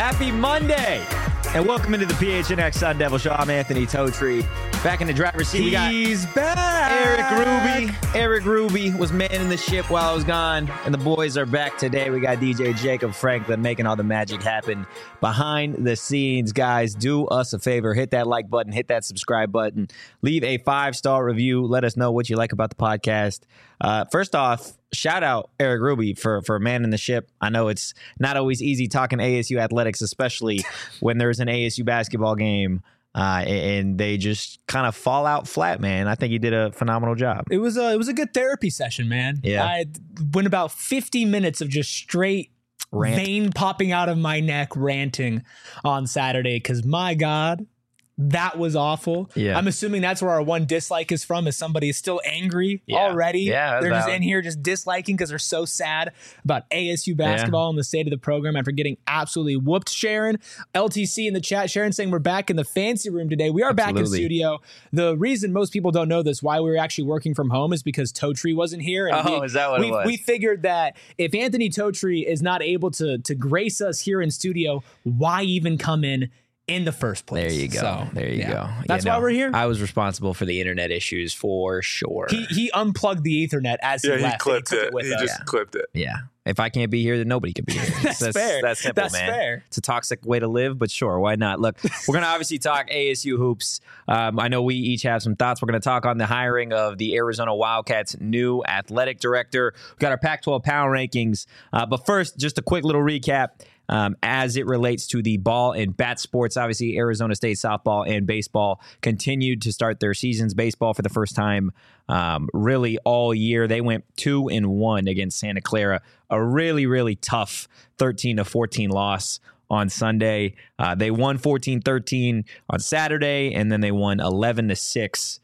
Happy Monday, and welcome into the PHNX Sun Devil Show. I'm Anthony Totri. Back in the driver's seat, we got He's back. Eric Ruby. Eric Ruby was manning the ship while I was gone, and the boys are back today. We got DJ Jacob Franklin making all the magic happen behind the scenes. Guys, do us a favor. Hit that like button. Hit that subscribe button. Leave a 5-star review. Let us know what you like about the podcast. First off, shout out Eric Ruby for manning the ship. I know it's not always easy talking ASU athletics, especially when there's an ASU basketball game. And they just kind of fall out flat, man. I think he did a phenomenal job. It was a good therapy session, man. Yeah. I went about 50 minutes of just straight vein popping out of my neck ranting on Saturday because, my God, that was awful. Yeah. I'm assuming that's where our one dislike is from, is somebody is still angry already. Yeah, they're just in here just disliking because they're so sad about ASU basketball and the state of the program after getting absolutely whooped. Sharon, LTC in the chat, Sharon saying we're back in the fancy room today. We are back in studio. The reason most people don't know this, why we were actually working from home, is because Totri wasn't here. And is that what it was? We figured that if Anthony Totri is not able to grace us here in studio, why even come in the first place? There you go. So, there you go. That's why we're here. I was responsible for the internet issues for sure. He unplugged the Ethernet as he left. He clipped it. With He us. just clipped it. Yeah. If I can't be here, then nobody can be here. That's fair. That's simple, That's man. fair. It's a toxic way to live, but sure, why not? Look, we're going to obviously talk ASU hoops. I know we each have some thoughts. We're going to talk on the hiring of the Arizona Wildcats' new athletic director. We've got our Pac-12 power rankings. But first, just a quick little recap. As it relates to the ball and bat sports, obviously Arizona State softball and baseball continued to start their seasons. Baseball for the first time really all year. They went 2-1 against Santa Clara. A really, really tough 13-14 loss on Sunday. They won 14-13 on Saturday, and then they won 11-6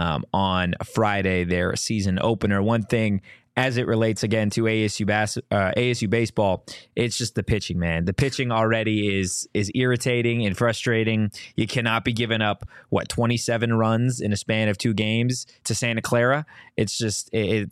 on Friday, their season opener. One thing as it relates again to ASU baseball, it's just the pitching, man. The pitching already is irritating and frustrating. You cannot be giving up 27 runs in a span of 2 games to Santa Clara. It's just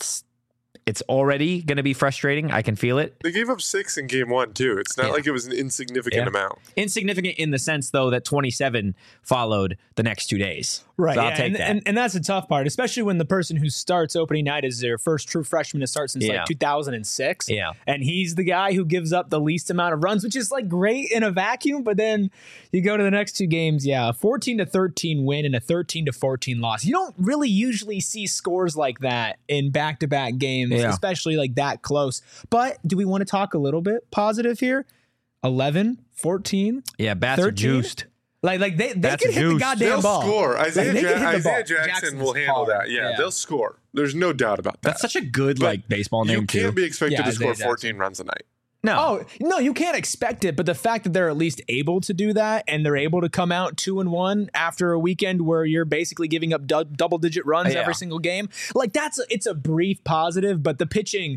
it's already going to be frustrating. I can feel it. They gave up 6 in game 1 too. It's not like it was an insignificant amount. Insignificant in the sense, though, that 27 followed the next 2 days. Right. So I'll take that. And that's the tough part, especially when the person who starts opening night is their first true freshman to start since 2006. Yeah. And he's the guy who gives up the least amount of runs, which is great in a vacuum. But then you go to the next 2 games. Yeah. A 14-13 win and a 13-14 loss. You don't really usually see scores like that in back-to-back games, especially that close. But do we want to talk a little bit positive here? 11, 14, yeah, bats 13? are juiced. They can hit the goddamn They'll ball. score. Isaiah Jackson Jackson's will handle hard. that. Yeah, they'll score. There's no doubt about that. That's such a good baseball name, You can't be expected to Isaiah score 14 runs a night. No. Oh, no, you can't expect it, but the fact that they're at least able to do that and they're able to come out 2-1 after a weekend where you're basically giving up double-digit runs every single game, it's a brief positive, but the pitching,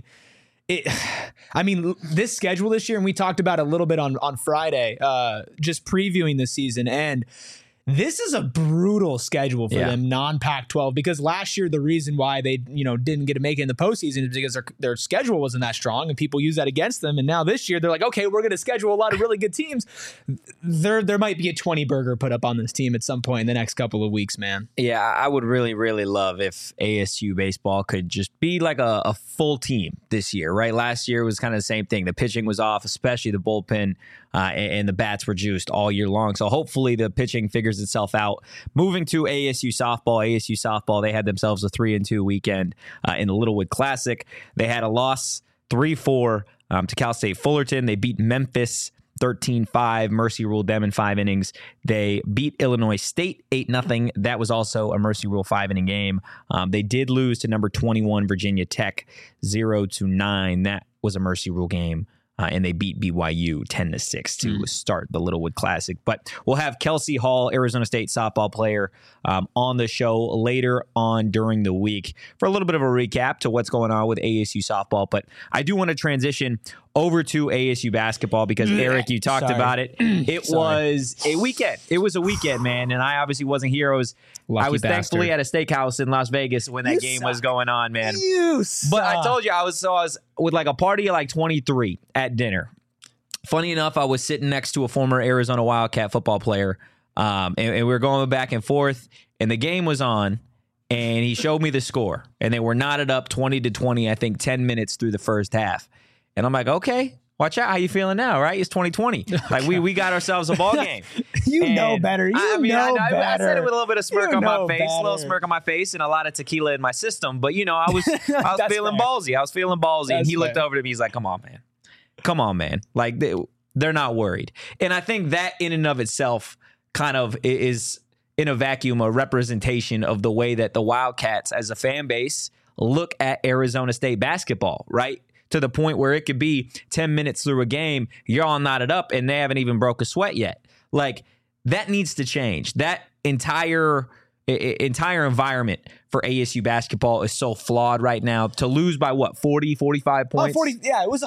this schedule this year, and we talked about it a little bit on Friday, just previewing the season, and this is a brutal schedule for them, non-Pac-12, because last year the reason why they didn't get to make it in the postseason is because their schedule wasn't that strong and people use that against them. And now this year they're like, okay, we're going to schedule a lot of really good teams. There might be a 20 burger put up on this team at some point in the next couple of weeks, man. Yeah, I would really, really love if ASU baseball could just be like a full team this year, right? Last year was kind of the same thing. The pitching was off, especially the bullpen, and the bats were juiced all year long. So hopefully the pitching figures itself out. Moving to ASU softball, they had themselves a 3-2 weekend in the Littlewood Classic. They had a loss 3-4 to Cal State Fullerton. They beat Memphis 13-5. Mercy ruled them in 5 innings. They beat Illinois State 8-0. That was also a Mercy rule 5-inning game. They did lose to number 21 Virginia Tech 0-9. That was a Mercy rule game. And they beat BYU 10-6 to start the Littlewood Classic. But we'll have Kelsey Hall, Arizona State softball player, on the show later on during the week for a little bit of a recap to what's going on with ASU softball. But I do want to transition over to ASU basketball because, Eric, you talked about it. It was a weekend. It was a weekend, man. And I obviously wasn't here. I was thankfully at a steakhouse in Las Vegas when that game was going on, man. You suck. But I told you, I was with a party of 23 at dinner. funny enough, I was sitting next to a former Arizona Wildcat football player, and we were going back and forth, and the game was on, and he showed me the score, and they were knotted up 20-20, I think 10 minutes through the first half. And I'm like, okay, watch out. How you feeling now, right? It's 2020. Like, we got ourselves a ball game. You know better. I said it with a little bit of smirk on my face, better. a little smirk on my face, and a lot of tequila in my system. But, I was feeling ballsy. I was feeling ballsy. And he looked over to me. He's like, come on, man. Like, they're not worried. And I think that in and of itself kind of is, in a vacuum, a representation of the way that the Wildcats as a fan base look at Arizona State basketball, right? To the point where it could be 10 minutes through a game, you're all knotted up and they haven't even broke a sweat yet. Like, that needs to change. That entire environment for ASU basketball is so flawed right now. To lose by 40, 45 points? 40, yeah, it was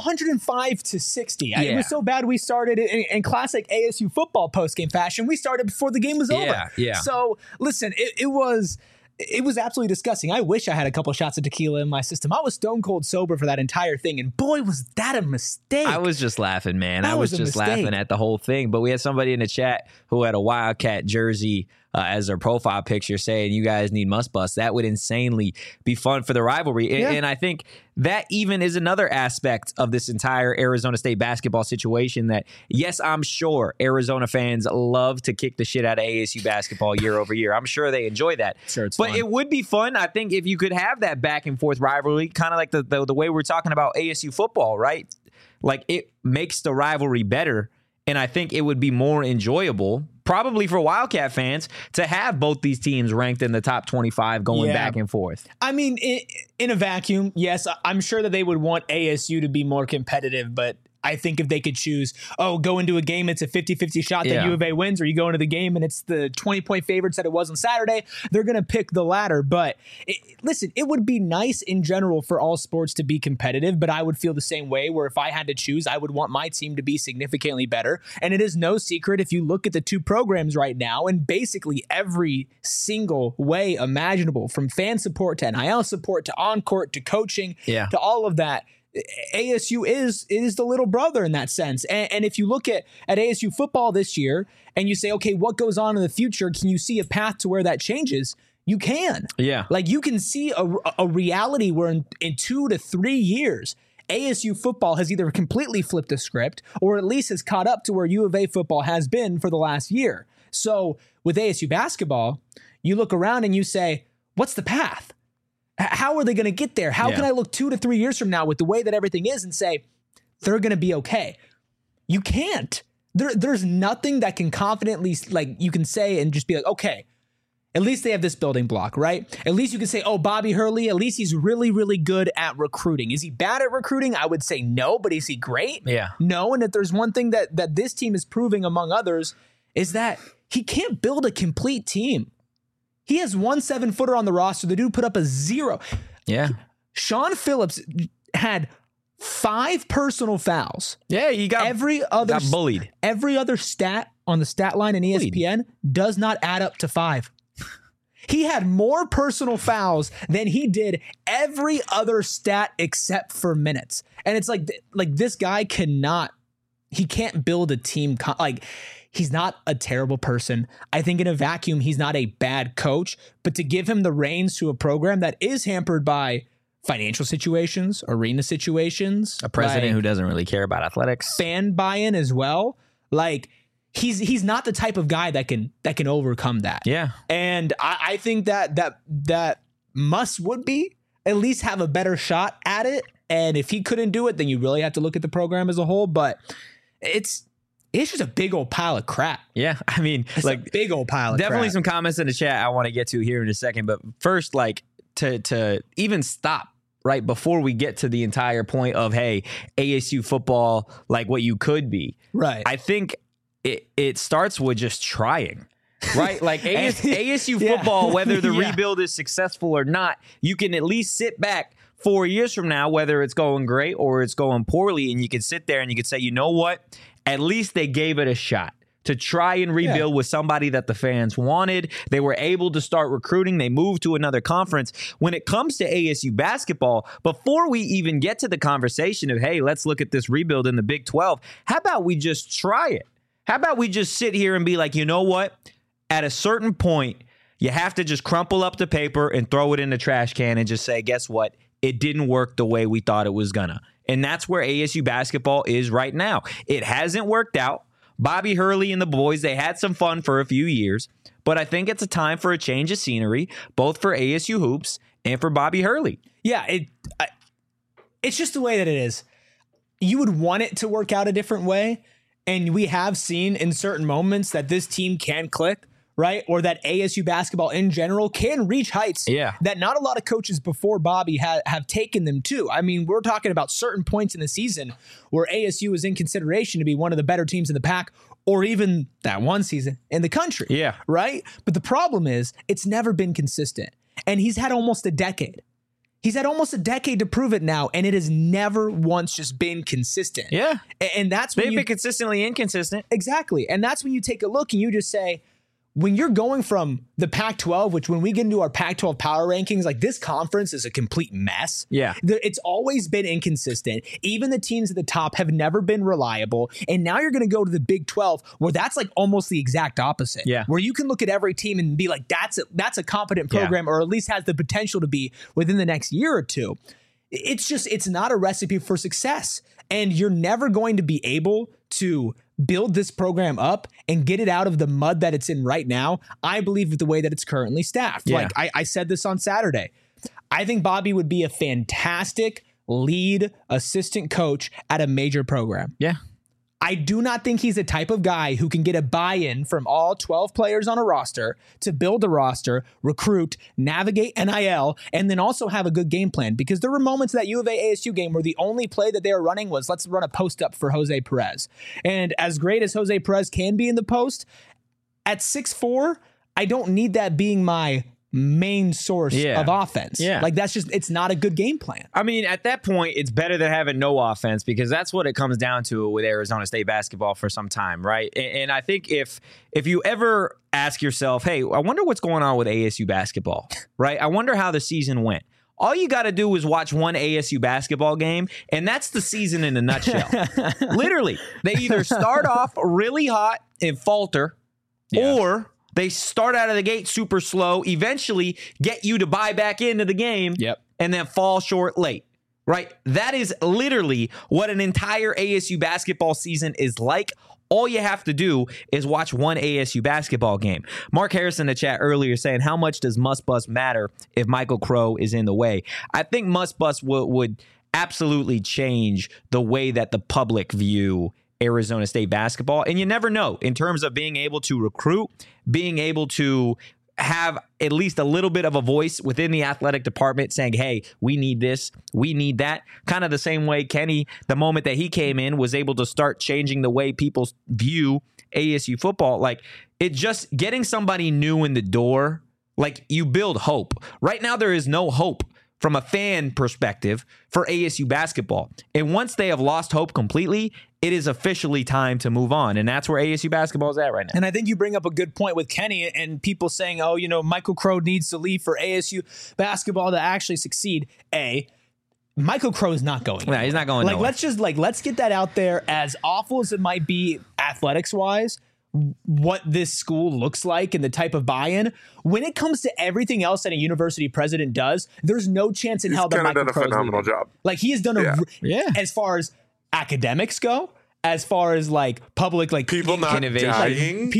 105-60. It was so bad we started in classic ASU football postgame fashion. We started before the game was over. Yeah. So, listen, it was absolutely disgusting. I wish I had a couple shots of tequila in my system. I was stone cold sober for that entire thing, and boy, was that a mistake. I was just laughing, man. I was just laughing at the whole thing. But we had somebody in the chat who had a Wildcat jersey as their profile picture saying, you guys need must bust. That would insanely be fun for the rivalry. Yeah. And I think that even is another aspect of this entire Arizona State basketball situation that, yes, I'm sure Arizona fans love to kick the shit out of ASU basketball year over year. I'm sure they enjoy that. Sure, it's but fun. It would be fun, I think, if you could have that back and forth rivalry, kind of like the way we're talking about ASU football, right? Like, it makes the rivalry better. And I think it would be more enjoyable, probably for Wildcat fans, to have both these teams ranked in the top 25 going back and forth. I mean, in a vacuum, yes, I'm sure that they would want ASU to be more competitive, but I think if they could choose, go into a game, it's a 50-50 shot that U of A wins, or you go into the game and it's the 20-point favorites that it was on Saturday, they're going to pick the latter. But listen, it would be nice in general for all sports to be competitive, but I would feel the same way where if I had to choose, I would want my team to be significantly better. And it is no secret if you look at the two programs right now, and basically every single way imaginable, from fan support to NIL support to on-court to coaching to all of that, ASU is the little brother in that sense. And if you look at ASU football this year and you say, okay, what goes on in the future? Can you see a path to where that changes? You can. Yeah. Like, you can see a reality where in 2 to 3 years, ASU football has either completely flipped the script or at least has caught up to where U of A football has been for the last year. So with ASU basketball, you look around and you say, what's the path? How are they going to get there? How can I look 2 to 3 years from now with the way that everything is and say, they're going to be okay? You can't. There's nothing that can confidently, like, you can say and just be like, okay, at least they have this building block, right? At least you can say, oh, Bobby Hurley, at least he's really, really good at recruiting. Is he bad at recruiting? I would say no, but is he great? Yeah. No, and if there's one thing that this team is proving among others is that he can't build a complete team. He has 1 7-footer on the roster. The dude put up a 0. Yeah. Sean Phillips had 5 personal fouls. Yeah, he got bullied. Every other stat on the stat line in ESPN does not add up to 5. He had more personal fouls than he did every other stat except for minutes. And it's like this guy he can't build a team. He's not a terrible person. I think in a vacuum, he's not a bad coach, but to give him the reins to a program that is hampered by financial situations, arena situations, a president who doesn't really care about athletics, fan buy-in as well. Like, he's not the type of guy that can overcome that. Yeah. And I think that would be at least have a better shot at it. And if he couldn't do it, then you really have to look at the program as a whole. But it's just a big old pile of crap. Yeah. I mean, it's a big old pile of crap. Definitely some comments in the chat I want to get to here in a second. But first, like, to even stop right before we get to the entire point of, hey, ASU football, like what you could be. Right. I think it starts with just trying. Right? Like ASU football, whether the rebuild is successful or not, you can at least sit back 4 years from now, whether it's going great or it's going poorly, and you can sit there and you can say, you know what? At least they gave it a shot to try and rebuild with somebody that the fans wanted. They were able to start recruiting. They moved to another conference. When it comes to ASU basketball, before we even get to the conversation of, hey, let's look at this rebuild in the Big 12, how about we just try it? How about we just sit here and be like, you know what? At a certain point, you have to just crumple up the paper and throw it in the trash can and just say, guess what? It didn't work the way we thought it was gonna. And that's where ASU basketball is right now. It hasn't worked out. Bobby Hurley and the boys, they had some fun for a few years, but I think it's a time for a change of scenery, both for ASU hoops and for Bobby Hurley. Yeah, it's just the way that it is. You would want it to work out a different way, and we have seen in certain moments that this team can click, right? Or that ASU basketball in general can reach heights that not a lot of coaches before Bobby have taken them to. I mean, we're talking about certain points in the season where ASU is in consideration to be one of the better teams in the pack, or even that one season in the country. Yeah. Right? But the problem is it's never been consistent. And he's had almost a decade. He's had almost a decade to prove it now, and it has never once just been consistent. Yeah. And that's when they've been consistently inconsistent. Exactly. And that's when you take a look and you just say, when you're going from the Pac-12, which when we get into our Pac-12 power rankings, like this conference is a complete mess. Yeah. It's always been inconsistent. Even the teams at the top have never been reliable. And now you're going to go to the Big 12 where that's like almost the exact opposite. Yeah. Where you can look at every team and be like, that's a competent program, or at least has the potential to be within the next year or two. It's not a recipe for success. And you're never going to be able to build this program up and get it out of the mud that it's in right now, I believe, with the way that it's currently staffed. Yeah. Like I said this on Saturday. I think Bobby would be a fantastic lead assistant coach at a major program. Yeah. I do not think he's the type of guy who can get a buy-in from all 12 players on a roster to build a roster, recruit, navigate NIL, and then also have a good game plan. Because there were moments that U of A ASU game where the only play that they were running was, let's run a post up for Jose Perez. And as great as Jose Perez can be in the post, at 6'4", I don't need that being my main source of offense. Yeah. Like it's not a good game plan. I mean, at that point, it's better than having no offense, because that's what it comes down to with Arizona State basketball for some time, right? And I think if you ever ask yourself, hey, I wonder what's going on with ASU basketball, right? I wonder how the season went. All you got to do is watch one ASU basketball game, and that's the season in a nutshell. Literally, they either start off really hot and falter, or they start out of the gate super slow, eventually get you to buy back into the game, and then fall short late, right? That is literally what an entire ASU basketball season is like. All you have to do is watch one ASU basketball game. Mark Harris in the chat earlier saying, how much does Muss Bus matter if Michael Crow is in the way? I think Muss Bus would absolutely change the way that the public view Arizona State basketball. And you never know in terms of being able to recruit, being able to have at least a little bit of a voice within the athletic department saying, hey, we need this, we need that. Kind of the same way Kenny, the moment that he came in, was able to start changing the way people view ASU football. Like, it just getting somebody new in the door, like, you build hope. Right now, there is no hope from a fan perspective for ASU basketball. And once they have lost hope completely, it is officially time to move on. And that's where ASU basketball is at right now. And I think you bring up a good point with Kenny and people saying, oh, Michael Crow needs to leave for ASU basketball to actually succeed. Michael Crow is not going. Yeah, he's not going. Let's get that out there. As awful as it might be athletics wise, what this school looks like and the type of buy-in, when it comes to everything else that a university president does, there's no chance in hell that Michael Crow is leaving. He's done a phenomenal job. Like, he has done as far as academics go, as far as like public, like people not innovation, dying.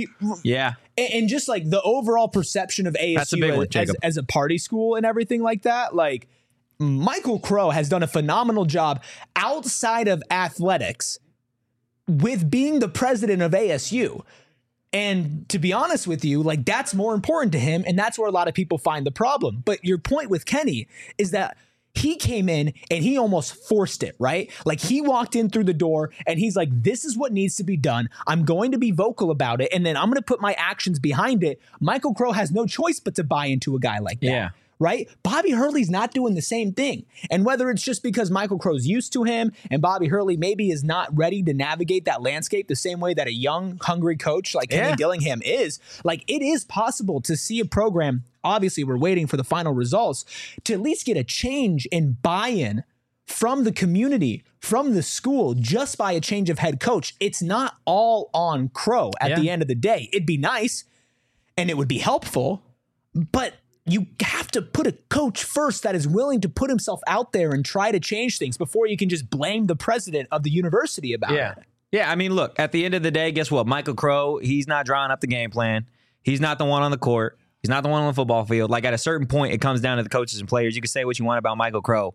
And just like the overall perception of ASU as a party school and everything like that. Like, Michael Crow has done a phenomenal job outside of athletics with being the president of ASU. And to be honest with you, like, that's more important to him. And that's where a lot of people find the problem. But your point with Kenny is that he came in and he almost forced it, right? Like, he walked in through the door and he's like, this is what needs to be done. I'm going to be vocal about it. And then I'm going to put my actions behind it. Michael Crow has no choice but to buy into a guy like that. Yeah. right? Bobby Hurley's not doing the same thing. And whether it's just because Michael Crow's used to him and Bobby Hurley maybe is not ready to navigate that landscape the same way that a young, hungry coach like Kenny Dillingham is, like it is possible to see a program, obviously we're waiting for the final results, to at least get a change in buy-in from the community, from the school, just by a change of head coach. It's not all on Crow at the end of the day. It'd be nice and it would be helpful, but you have to put a coach first that is willing to put himself out there and try to change things before you can just blame the president of the university about it. Yeah, I mean, look, at the end of the day, guess what? Michael Crow, he's not drawing up the game plan. He's not the one on the court. He's not the one on the football field. Like, at a certain point, it comes down to the coaches and players. You can say what you want about Michael Crow,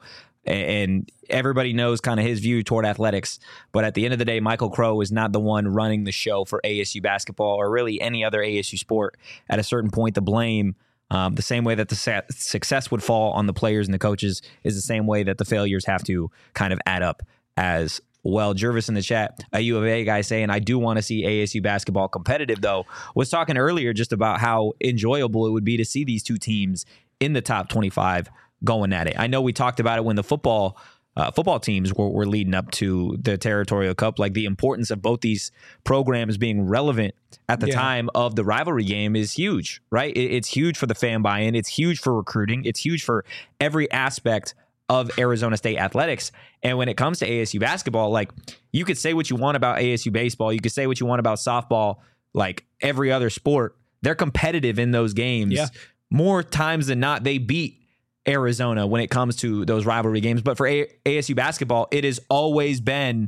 and everybody knows kind of his view toward athletics. But at the end of the day, Michael Crow is not the one running the show for ASU basketball or really any other ASU sport. At a certain point, the blame, the same way that the success would fall on the players and the coaches, is the same way that the failures have to kind of add up as well. Jervis in the chat, a U of A guy saying, I do want to see ASU basketball competitive, though. Was talking earlier just about how enjoyable it would be to see these two teams in the top 25 going at it. I know we talked about it when the football teams were leading up to the Territorial Cup, like the importance of both these programs being relevant at the time of the rivalry game is huge, right? It's huge for the fan buy-in. It's huge for recruiting. It's huge for every aspect of Arizona State athletics. And when it comes to ASU basketball, like, you could say what you want about ASU baseball. You could say what you want about softball, like every other sport. They're competitive in those games. Yeah. More times than not, they beat Arizona when it comes to those rivalry games. But for ASU basketball, it has always been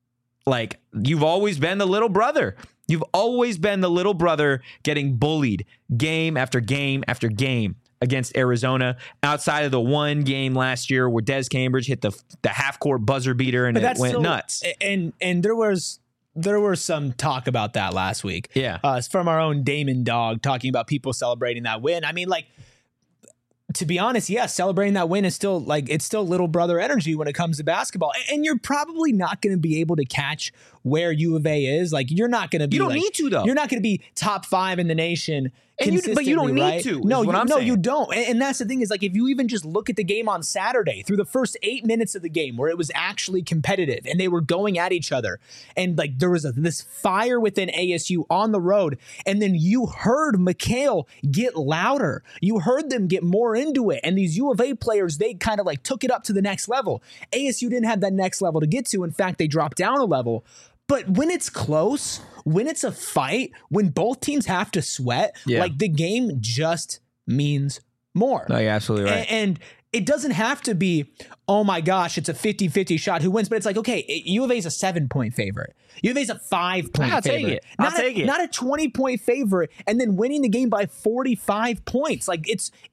like, you've always been the little brother. You've always been the little brother getting bullied game after game after game against Arizona, outside of the one game last year where Des Cambridge hit the half-court buzzer beater and it went nuts. And there was some talk about that last week. Yeah. From our own Damon Dog talking about people celebrating that win. I mean, like, to be honest, celebrating that win is still like, it's still little brother energy when it comes to basketball. And you're probably not going to be able to catch where U of A is. Like, you're not going to be. You don't need to, though. You're not going to be top 5 in the nation. But you don't need to. No, you don't. And that's the thing is, like, if you even just look at the game on Saturday, through the first 8 minutes of the game where it was actually competitive and they were going at each other, and like there was this fire within ASU on the road, and then you heard McHale get louder. You heard them get more into it, and these U of A players, they kind of like took it up to the next level. ASU didn't have that next level to get to. In fact, they dropped down a level. But when it's close, when it's a fight, when both teams have to sweat, like, the game just means more. No, you're absolutely right. And it doesn't have to be, oh my gosh, it's a 50-50 shot who wins. But it's like, okay, U of A is a 7-point favorite. U of A is a 5-point favorite. I'll take it. Not a 20-point favorite and then winning the game by 45 points. Like,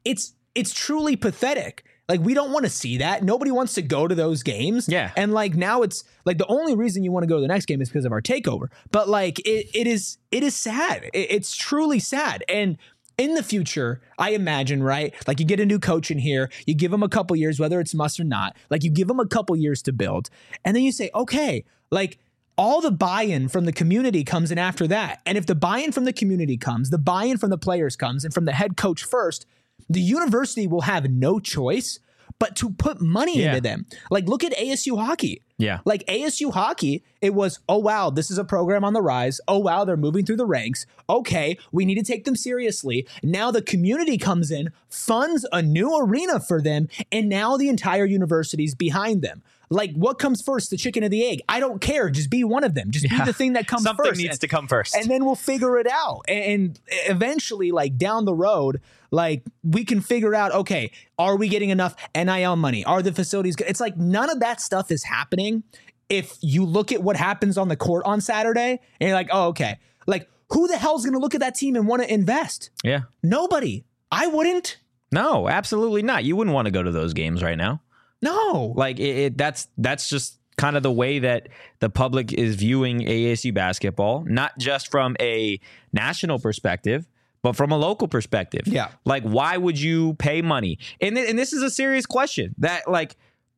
it's truly pathetic. Like, we don't want to see that. Nobody wants to go to those games. Yeah. And like, now it's like the only reason you want to go to the next game is because of our takeover. But like, it is sad. It's truly sad. And in the future, I imagine, right? Like, you get a new coach in here, you give him a couple years, whether it's must or not, like, you give him a couple years to build. And then you say, okay, like, all the buy-in from the community comes in after that. And if the buy-in from the community comes, the buy-in from the players comes, and from the head coach first, the university will have no choice but to put money into them. Like, look at ASU hockey. Yeah. Like, ASU hockey, it was, oh, wow, this is a program on the rise. Oh, wow, they're moving through the ranks. Okay, we need to take them seriously. Now the community comes in, funds a new arena for them, and now the entire university's behind them. Like, what comes first, the chicken or the egg? I don't care. Just be one of them. Just be the thing that comes Something first. Something needs to come first. And then we'll figure it out. And eventually, like, down the road, like, we can figure out, okay, are we getting enough NIL money? Are the facilities good? It's like, none of that stuff is happening if you look at what happens on the court on Saturday and you're like, oh, okay. Like, who the hell's going to look at that team and want to invest? Yeah. Nobody. I wouldn't. No, absolutely not. You wouldn't want to go to those games right now. No. Like, that's just kind of the way that the public is viewing ASU basketball, not just from a national perspective, but from a local perspective. Yeah. Like, why would you pay money? And this is a serious question that, like,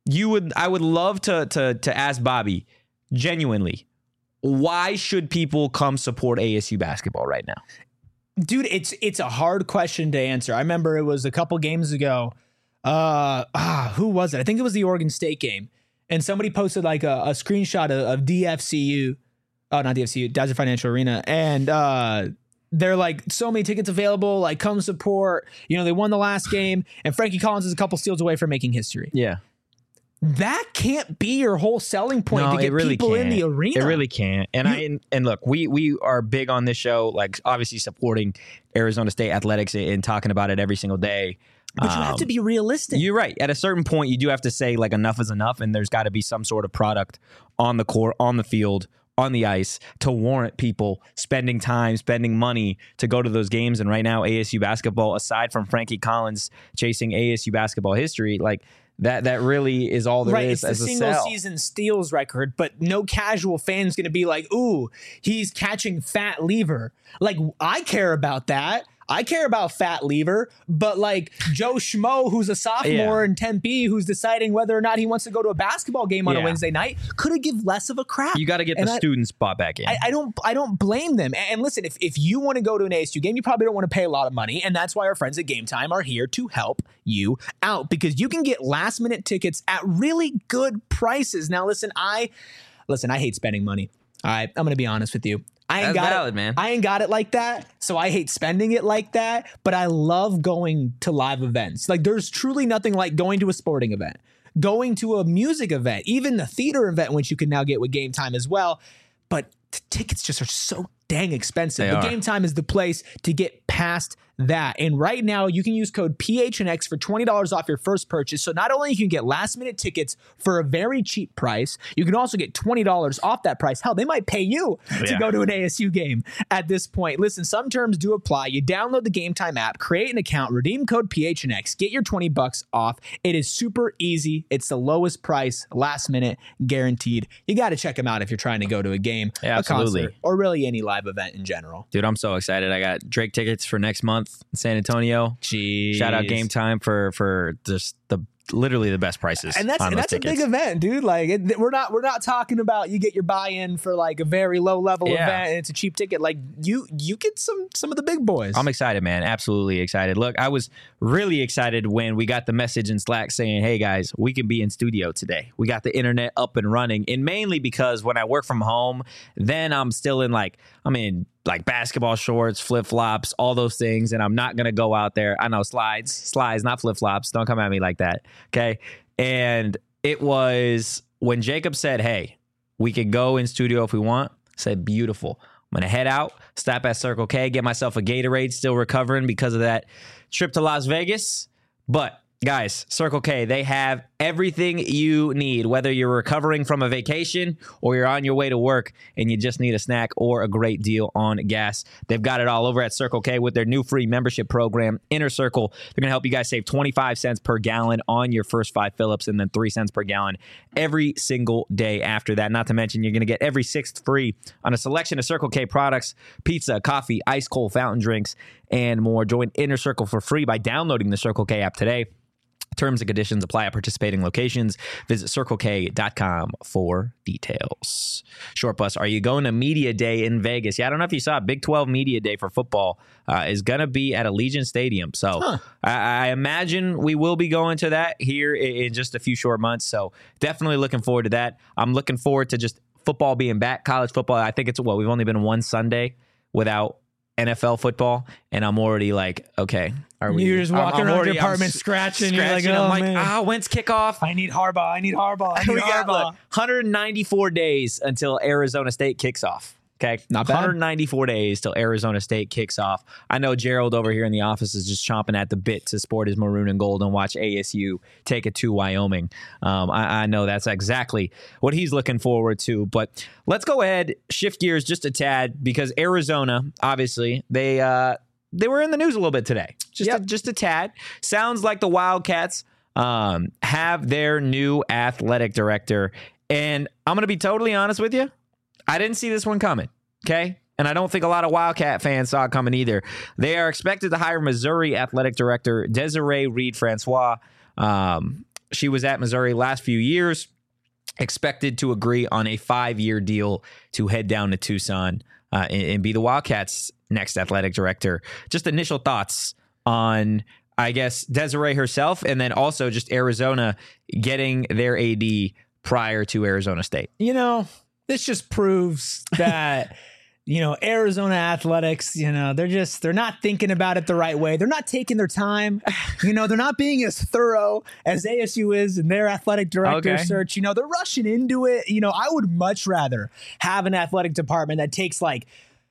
I would love to ask Bobby genuinely, why should people come support ASU basketball right now? Dude, it's a hard question to answer. I remember it was a couple games ago. Who was it? I think it was the Oregon State game. And somebody posted like a screenshot of DFCU. Oh, not DFCU, Desert Financial Arena. And they're like, so many tickets available, like come support. You know, they won the last game, and Frankie Collins is a couple steals away from making history. Yeah. That can't be your whole selling point to get really people can't. in the arena. It really can't. And look, we are big on this show, like obviously supporting Arizona State athletics and talking about it every single day. But you have to be realistic. You're right. At a certain point, you do have to say like enough is enough, and there's got to be some sort of product on the court, on the field, on the ice to warrant people spending time, spending money to go to those games. And right now, ASU basketball, aside from Frankie Collins chasing ASU basketball history, like that really is all there is. It's the single season steals record, but no casual fan's going to be like, ooh, he's catching Fat Lever. Like, I care about that. I care about Fat Lever, but like Joe Schmo, who's a sophomore in Tempe, who's deciding whether or not he wants to go to a basketball game on a Wednesday night, could have give less of a crap. You got to get the student spot back in. I don't blame them. And listen, if you want to go to an ASU game, you probably don't want to pay a lot of money, and that's why our friends at Game Time are here to help you out, because you can get last minute tickets at really good prices. Now, listen, I hate spending money. All right, I'm going to be honest with you. I ain't got it like that, so I hate spending it like that, but I love going to live events. Like, there's truly nothing like going to a sporting event, going to a music event, even the theater event, which you can now get with Game Time as well. But the tickets just are so dang expensive. But Game Time is the place to get past that. And right now, you can use code PHNX for $20 off your first purchase. So not only can you get last minute tickets for a very cheap price, you can also get $20 off that price. Hell, they might pay you to go to an ASU game at this point. Listen, some terms do apply. You download the Game Time app, create an account, redeem code PHNX, get your $20 off. It is super easy. It's the lowest price, last minute, guaranteed. You got to check them out if you're trying to go to a game, a concert, or really any live event in general. Dude, I'm so excited. I got Drake tickets for next month in San Antonio. Jeez. Shout out Game Time for just literally the best prices. And that's a big event, dude. Like we're not talking about you get your buy-in for like a very low level event and it's a cheap ticket. Like you get some of the big boys. I'm excited, man. Absolutely excited. Look, I was really excited when we got the message in Slack saying, hey guys, we can be in studio today. We got the internet up and running. And mainly because when I work from home, then I'm in basketball shorts, flip-flops, all those things, and I'm not going to go out there. I know slides, not flip-flops. Don't come at me like that, okay? And it was when Jacob said, hey, we could go in studio if we want. I said, beautiful. I'm going to head out, stop at Circle K, get myself a Gatorade, still recovering because of that trip to Las Vegas. But guys, Circle K, they have everything you need, whether you're recovering from a vacation or you're on your way to work and you just need a snack or a great deal on gas. They've got it all over at Circle K with their new free membership program, Inner Circle. They're going to help you guys save 25 cents per gallon on your first 5 fill-ups and then 3 cents per gallon every single day after that. Not to mention, you're going to get every 6th free on a selection of Circle K products, pizza, coffee, ice cold fountain drinks, and more. Join Inner Circle for free by downloading the Circle K app today. Terms and conditions apply at participating locations. Visit CircleK.com for details. Short Bus, are you going to Media Day in Vegas? Yeah, I don't know if you saw Big 12 Media Day for football is going to be at Allegiant Stadium. So I imagine we will be going to that here in just a few short months. So definitely looking forward to that. I'm looking forward to just football being back, college football. I think we've only been one Sunday without NFL football, and I'm already like, okay, are we? You're just walking around your apartment scratching. You're like, oh, I'm like, when's kickoff? I need Harbaugh. We got 194 days until Arizona State kicks off. Okay, not bad. 194 days till Arizona State kicks off. I know Gerald over here in the office is just chomping at the bit to sport his maroon and gold and watch ASU take it to Wyoming. I know that's exactly what he's looking forward to. But let's go ahead, shift gears just a tad, because Arizona, obviously, they were in the news a little bit today. Just a tad. Sounds like the Wildcats have their new athletic director. And I'm going to be totally honest with you. I didn't see this one coming, okay? And I don't think a lot of Wildcat fans saw it coming either. They are expected to hire Missouri athletic director Desiree Reed-Francois. She was at Missouri last few years, expected to agree on a 5-year deal to head down to Tucson and be the Wildcats' next athletic director. Just initial thoughts on, I guess, Desiree herself, and then also just Arizona getting their AD prior to Arizona State. This just proves that Arizona athletics, they're not thinking about it the right way. They're not taking their time. They're not being as thorough as ASU is in their athletic director search. They're rushing into it. I would much rather have an athletic department that takes like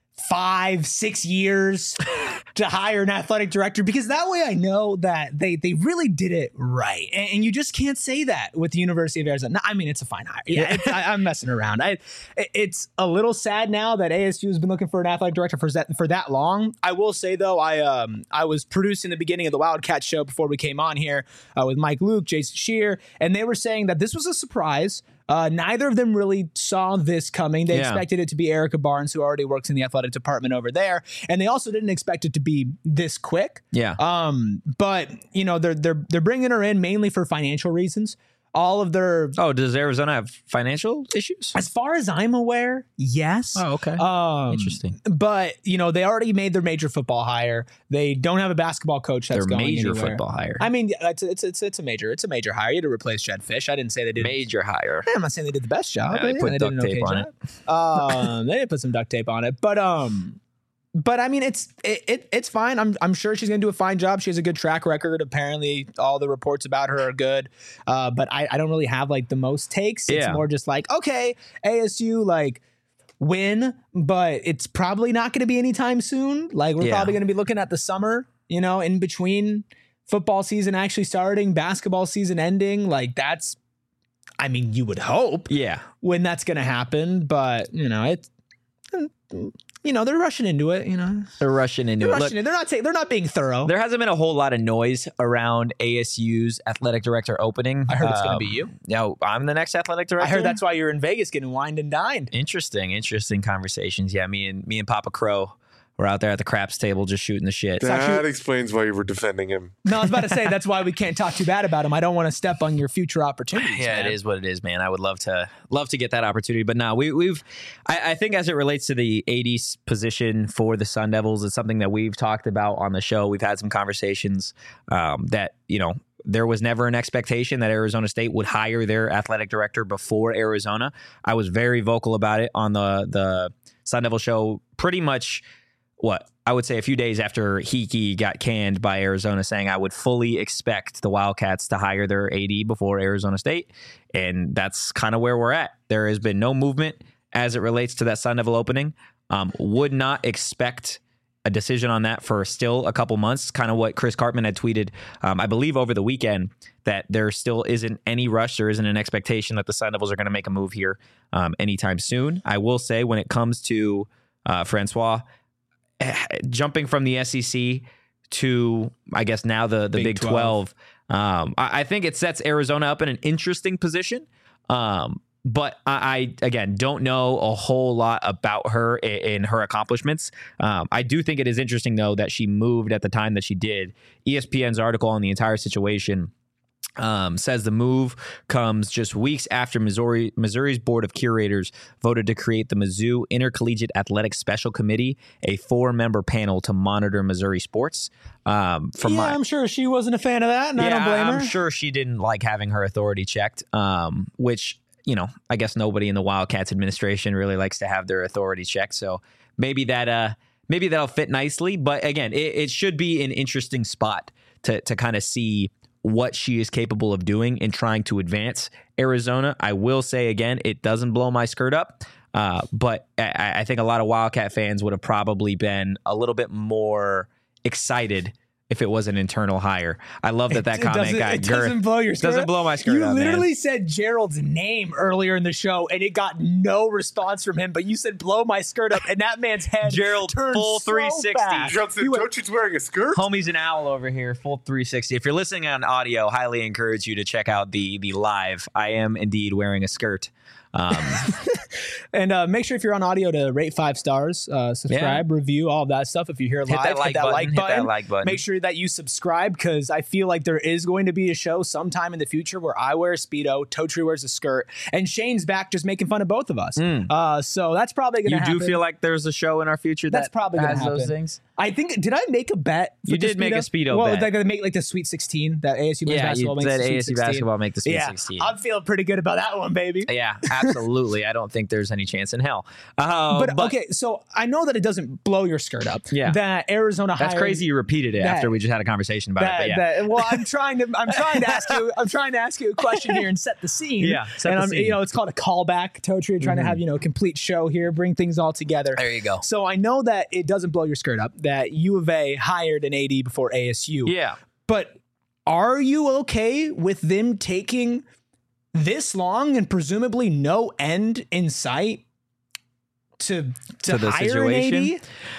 5-6 years to hire an athletic director, because that way I know that they really did it right. And you just can't say that with the University of Arizona. I mean, it's a fine hire. Yeah, I'm messing around. It's a little sad now that ASU has been looking for an athletic director for that long. I will say, though, I was producing the beginning of the Wildcat show before we came on here with Mike Luke, Jason Shear, and they were saying that this was a surprise. Neither of them really saw this coming. They expected it to be Erica Barnes, who already works in the athletic department over there, and they also didn't expect it to be this quick. Yeah. But they're bringing her in mainly for financial reasons. All of their does Arizona have financial issues? As far as I'm aware, yes. Oh, okay. Interesting. But they already made their major football hire. They don't have a basketball coach that's going anywhere. Major football hire. I mean, it's a major hire. You had to replace Jed Fish. I didn't say they did major hire. I'm not saying they did the best job. They put duct tape on it. They did put some duct tape on it, but I mean, it's fine. I'm sure she's going to do a fine job. She has a good track record. Apparently, all the reports about her are good. But I don't really have like the most takes. It's more just like, okay, ASU win, but it's probably not going to be anytime soon. Like we're probably going to be looking at the summer, in between football season actually starting, basketball season ending. Like that's, I mean, you would hope, when that's going to happen. But it's. They're rushing into it. They're rushing into it. They're not being thorough. There hasn't been a whole lot of noise around ASU's athletic director opening. I heard it's going to be you. No, I'm the next athletic director. I heard that's why you're in Vegas getting wined and dined. Interesting conversations. Yeah, me and Papa Crow were out there at the craps table just shooting the shit. That explains why you were defending him. No, I was about to say that's why we can't talk too bad about him. I don't want to step on your future opportunities. Yeah, man. It is what it is, man. I would love to get that opportunity, but no, I think as it relates to the AD position for the Sun Devils, it's something that we've talked about on the show. We've had some conversations that there was never an expectation that Arizona State would hire their athletic director before Arizona. I was very vocal about it on the Sun Devil show pretty much. I would say a few days after Hickey got canned by Arizona, saying I would fully expect the Wildcats to hire their AD before Arizona State. And that's kind of where we're at. There has been no movement as it relates to that Sun Devil opening. Would not expect a decision on that for still a couple months. Kind of what Chris Cartman had tweeted, I believe over the weekend, that there still isn't any rush. There isn't an expectation that the Sun Devils are going to make a move here anytime soon. I will say when it comes to Francois, jumping from the SEC to, I guess, now the Big 12, I think it sets Arizona up in an interesting position. But I again, don't know a whole lot about her and her accomplishments. I do think it is interesting, though, that she moved at the time that she did. ESPN's article on the entire situation says the move comes just weeks after Missouri's Board of Curators voted to create the Mizzou Intercollegiate Athletic Special Committee, a 4-member panel to monitor Missouri sports. I'm sure she wasn't a fan of that, and I don't blame her. I'm sure she didn't like having her authority checked, which, I guess nobody in the Wildcats administration really likes to have their authority checked. So maybe that'll fit nicely. But again, it should be an interesting spot to kind of see what she is capable of doing in trying to advance Arizona. I will say again, it doesn't blow my skirt up, but I think a lot of Wildcat fans would have probably been a little bit more excited if it was an internal hire. I love that comment got girth. Doesn't blow your skirt. Doesn't blow my skirt up. You literally said Gerald's name earlier in the show, and it got no response from him. But you said "blow my skirt up," and that man's head Gerald turned full so 360. fast. Gerald said, "Don't you wearing a skirt?" Homie's an owl over here, full 360. If you're listening on audio, highly encourage you to check out the live. I am indeed wearing a skirt. And make sure if you're on audio to rate 5 stars, subscribe, review, all of that stuff. If you're here live, hit that like button. Make sure that you subscribe, because I feel like there is going to be a show sometime in the future where I wear a Speedo, Totri wears a skirt, and Shane's back just making fun of both of us. So that's probably going to happen. You do feel like there's a show in our future that's probably going to happen. Those things? I think, did I make a bet? You did make a Speedo bet. Well, they're going to make like the Sweet 16, that ASU men's basketball makes the Sweet 16. basketball make the Sweet 16. I'm feeling pretty good about that one, baby. Yeah, absolutely. I don't think there's any chance in hell. But okay, so I know that it doesn't blow your skirt up. Yeah. That Arizona hired. That's crazy you repeated it after we just had a conversation about it. Well, I'm trying to ask you a question here and set the scene. Yeah. It's called a callback, Totri, trying to have, a complete show here, bring things all together. There you go. So I know that it doesn't blow your skirt up that U of A hired an AD before ASU. Yeah. But are you okay with them taking this long and presumably no end in sight to the hire situation?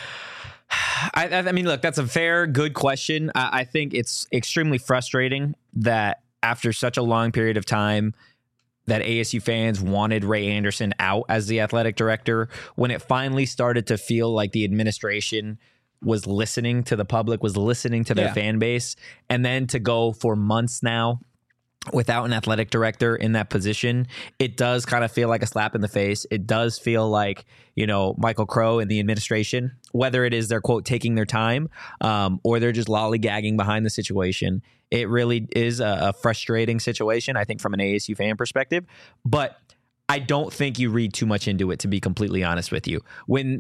An AD? I mean, look, that's a fair, good question. I think it's extremely frustrating that after such a long period of time that ASU fans wanted Ray Anderson out as the athletic director, when it finally started to feel like the administration was listening to the public, was listening to their fan base, and then to go for months now without an athletic director in that position, it does kind of feel like a slap in the face. It does feel like, Michael Crow and the administration, whether it is they're, quote, taking their time or they're just lollygagging behind the situation. It really is a frustrating situation, I think, from an ASU fan perspective. But I don't think you read too much into it, to be completely honest with you.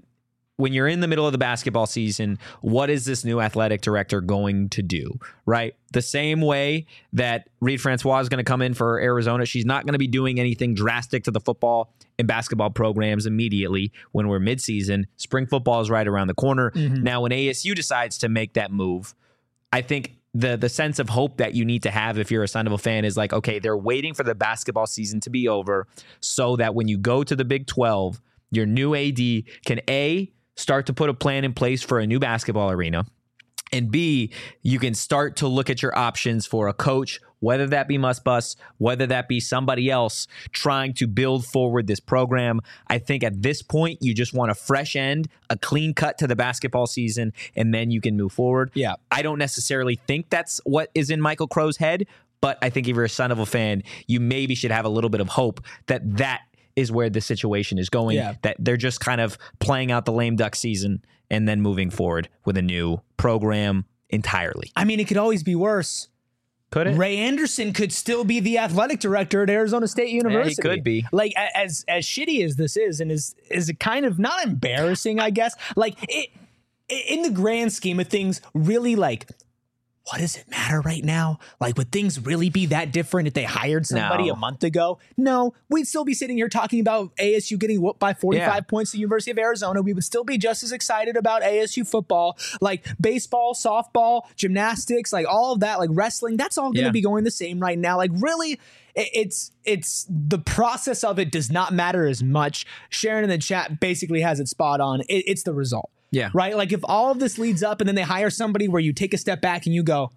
When you're in the middle of the basketball season, what is this new athletic director going to do, right? The same way that Reed Francois is going to come in for Arizona, she's not going to be doing anything drastic to the football and basketball programs immediately when we're midseason. Spring football is right around the corner. Now, when ASU decides to make that move, I think the sense of hope that you need to have if you're a Sun Devil fan is like, okay, they're waiting for the basketball season to be over so that when you go to the Big 12, your new AD can start to put a plan in place for a new basketball arena, and B, you can start to look at your options for a coach, whether that be Muss Bus, whether that be somebody else trying to build forward this program. I think at this point, you just want a fresh end, a clean cut to the basketball season, and then you can move forward. Yeah. I don't necessarily think that's what is in Michael Crow's head, but I think if you're a Sun Devil fan, you maybe should have a little bit of hope that is where the situation is going, that they're just kind of playing out the lame duck season and then moving forward with a new program entirely. I mean, it could always be worse. Could it? Ray Anderson could still be the athletic director at Arizona State University. Yeah, he could be. Like, as shitty as this is, and is it kind of not embarrassing, I guess? Like, it in the grand scheme of things, really, like, what does it matter right now? Like, would things really be that different if they hired somebody a month ago? No, we'd still be sitting here talking about ASU getting whooped by 45 points at the University of Arizona. We would still be just as excited about ASU football, like baseball, softball, gymnastics, like all of that, like wrestling. That's all going to be going the same right now. Like, really, it's the process of it does not matter as much. Sharon in the chat basically has it spot on. It's the result. Yeah. Right? Like, if all of this leads up and then they hire somebody where you take a step back and you go,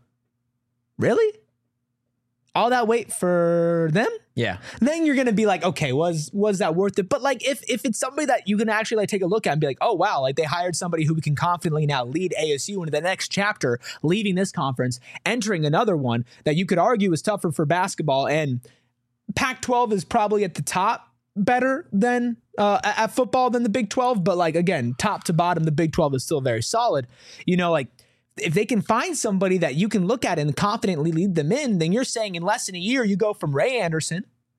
really? All that wait for them? Yeah. Then you're going to be like, okay, was that worth it? But like, if it's somebody that you can actually like take a look at and be like, oh, wow, like they hired somebody who can confidently now lead ASU into the next chapter, leaving this conference, entering another one that you could argue is tougher for basketball. And Pac-12 is probably at the top better than at football than the Big 12, but like, again, top to bottom, the Big 12 is still very solid. Like, if they can find somebody that you can look at and confidently lead them in, then you're saying in less than a year you go from Ray Anderson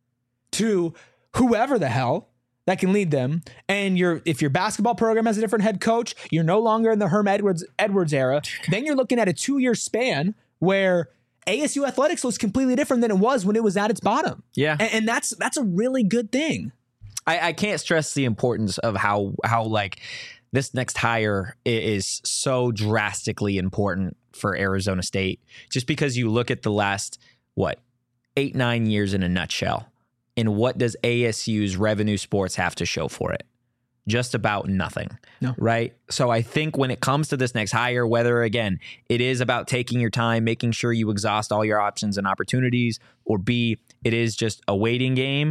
to whoever the hell that can lead them. And if your basketball program has a different head coach, you're no longer in the Herm Edwards era. Then you're looking at a 2-year span where ASU athletics looks completely different than it was when it was at its bottom. Yeah. And that's a really good thing. I can't stress the importance of how like this next hire is so drastically important for Arizona State, just because you look at the last, 8-9 years in a nutshell. And what does ASU's revenue sports have to show for it? Just about nothing, right? So I think when it comes to this next hire, whether, again, it is about taking your time, making sure you exhaust all your options and opportunities, or B, it is just a waiting game,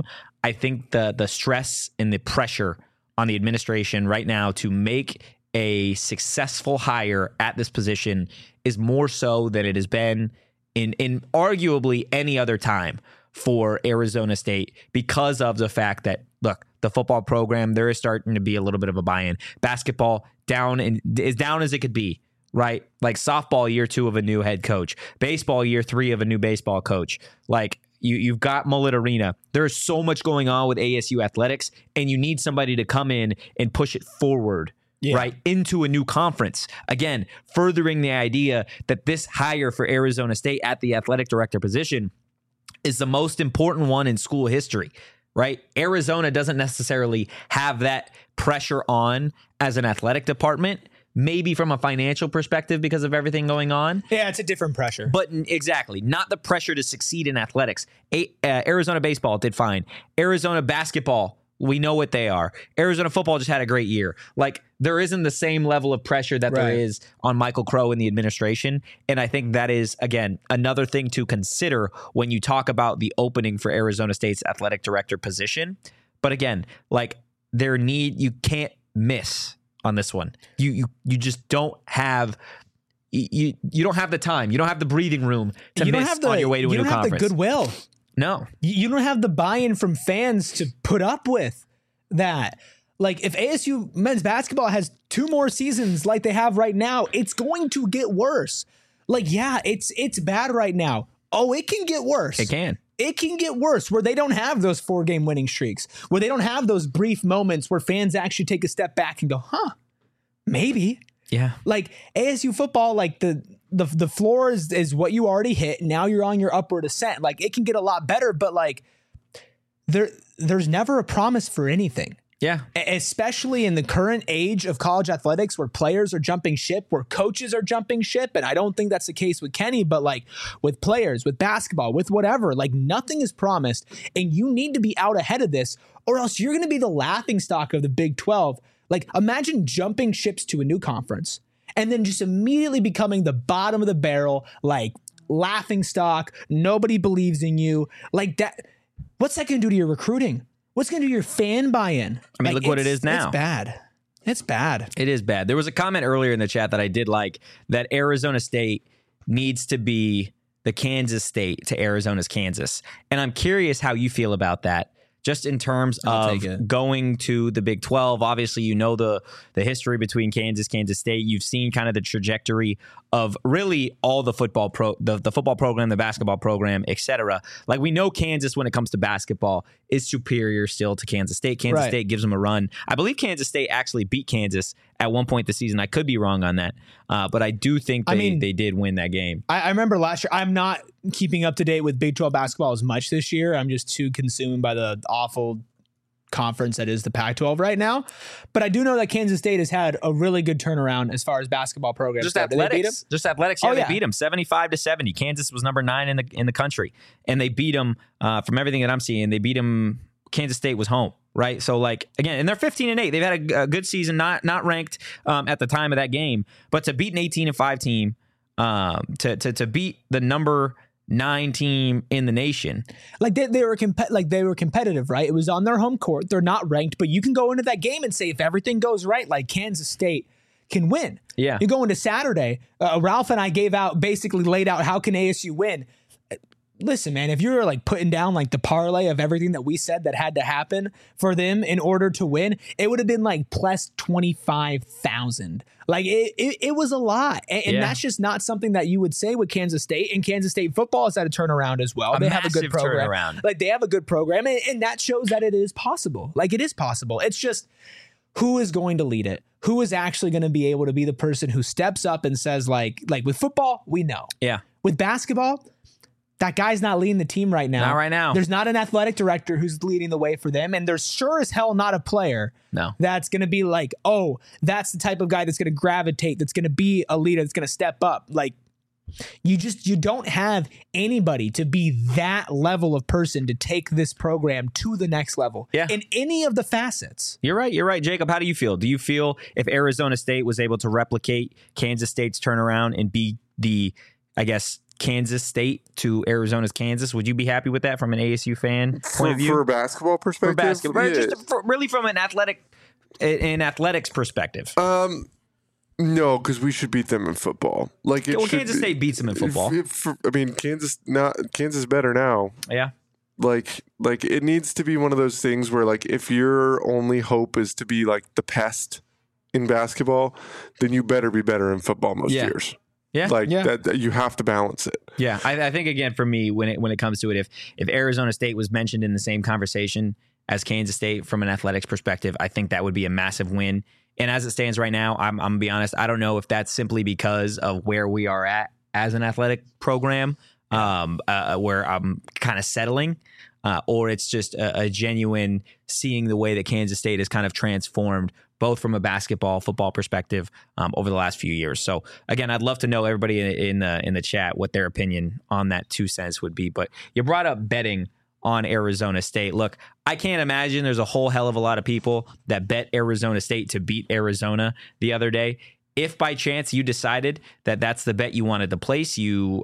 I think the stress and the pressure on the administration right now to make a successful hire at this position is more so than it has been in arguably any other time for Arizona State, because of the fact that, look, the football program, there is starting to be a little bit of a buy-in. Basketball is down as it could be, right? Like softball, year 2 of a new head coach. Baseball, year 3 of a new baseball coach. Like you've got Mullet Arena. There's so much going on with ASU athletics, and you need somebody to come in and push it forward. Yeah. Right, into a new conference. Again, furthering the idea that this hire for Arizona State at the athletic director position is the most important one in school history, right? Arizona doesn't necessarily have that pressure on as an athletic department, maybe from a financial perspective because of everything going on. Yeah, it's a different pressure. But exactly, not the pressure to succeed in athletics. Arizona baseball did fine. Arizona basketball, we know what they are. Arizona football just had a great year. Like, there isn't the same level of pressure that there is on Michael Crow and the administration. And I think that is, again, another thing to consider when you talk about the opening for Arizona State's athletic director position. But again, like, you can't miss on this one. You just don't have... You don't have the time. You don't have the breathing room to miss on your way to a new conference. You don't have the goodwill. No. You don't have the buy-in from fans to put up with that. Like, if ASU men's basketball has 2 more seasons like they have right now, it's going to get worse. Like, yeah, it's bad right now. Oh, it can get worse. It can. It can get worse, where they don't have those 4-game winning streaks, where they don't have those brief moments where fans actually take a step back and go, maybe. Yeah. Like, ASU football, like the floor is what you already hit. Now you're on your upward ascent. Like, it can get a lot better, but like there's never a promise for anything. Yeah. Especially in the current age of college athletics, where players are jumping ship, where coaches are jumping ship. And I don't think that's the case with Kenny, but like with players, with basketball, with whatever, like nothing is promised, and you need to be out ahead of this, or else you're going to be the laughingstock of the Big 12. Like, imagine jumping ships to a new conference and then just immediately becoming the bottom of the barrel, like laughing stock. Nobody believes in you. Like that. What's that going to do to your recruiting? What's going to do to your fan buy-in? I mean, look what it is now. It's bad. It's bad. It is bad. There was a comment earlier in the chat that I did like, that Arizona State needs to be the Kansas State to Arizona's Kansas. And I'm curious how you feel about that. Just in terms of going to the Big 12, obviously, you know the history between Kansas State. You've seen kind of the trajectory of really all the football the football program, the basketball program, etc. Like, we know Kansas, when it comes to basketball, is superior still to Kansas State. Kansas State gives them a run. I believe Kansas State actually beat Kansas at one point this season. I could be wrong on that, but I do think they did win that game. I remember last year. I'm not keeping up to date with Big 12 basketball as much this year. I'm just too consumed by the awful conference that is the Pac-12 right now. But I do know that Kansas State has had a really good turnaround as far as basketball programs. Just athletics. Yeah, they beat them 75-70. Kansas was number 9 in the country, and they beat them. From everything that I'm seeing, they beat them. Kansas State was home, right? So, like, again, and they're 15-8. They've had a good season, not ranked at the time of that game, but to beat an 18-5 team, to beat the number 9 team in the nation. Like, they were competitive, right? It was on their home court. They're not ranked, but you can go into that game and say, if everything goes right, like, Kansas State can win. Yeah. You go into Saturday, Ralph and I basically laid out how can ASU win. Listen, man, if you're like putting down like the parlay of everything that we said that had to happen for them in order to win, it would have been like plus 25,000. Like it was a lot. And that's just not something that you would say with Kansas State. And Kansas State football has had a turnaround as well. They have a good program. Turnaround. Like, they have a good program, and that shows that it is possible. Like, it is possible. It's just, who is going to lead it? Who is actually going to be able to be the person who steps up and says, like with football, we know. Yeah. With basketball, that guy's not leading the team right now. Not right now. There's not an athletic director who's leading the way for them. And there's sure as hell not a player that's going to be like, oh, that's the type of guy that's going to gravitate, that's going to be a leader, that's going to step up. Like, you don't have anybody to be that level of person to take this program to the next level in any of the facets. You're right. Jacob, how do you feel? Do you feel if Arizona State was able to replicate Kansas State's turnaround and be the, I guess, Kansas State to Arizona's Kansas. Would you be happy with that from an ASU fan point of view? For a basketball perspective? For basketball, Yeah. just really from an athletics perspective. No, because we should beat them in football. Like Kansas State beats them in football. Kansas better now. Yeah. Like it needs to be one of those things where like if your only hope is to be like the pest in basketball, then you better be better in football most years. Yeah, that you have to balance it. Yeah, I think again for me when it comes to it, if Arizona State was mentioned in the same conversation as Kansas State from an athletics perspective, I think that would be a massive win. And as it stands right now, I'm gonna be honest, I don't know if that's simply because of where we are at as an athletic program, where I'm kind of settling, or it's just a genuine seeing the way that Kansas State has kind of transformed both from a basketball, football perspective over the last few years. So again, I'd love to know everybody in the chat what their opinion on that 2 cents would be. But you brought up betting on Arizona State. Look, I can't imagine there's a whole hell of a lot of people that bet Arizona State to beat Arizona the other day. If by chance you decided that that's the bet you wanted to place,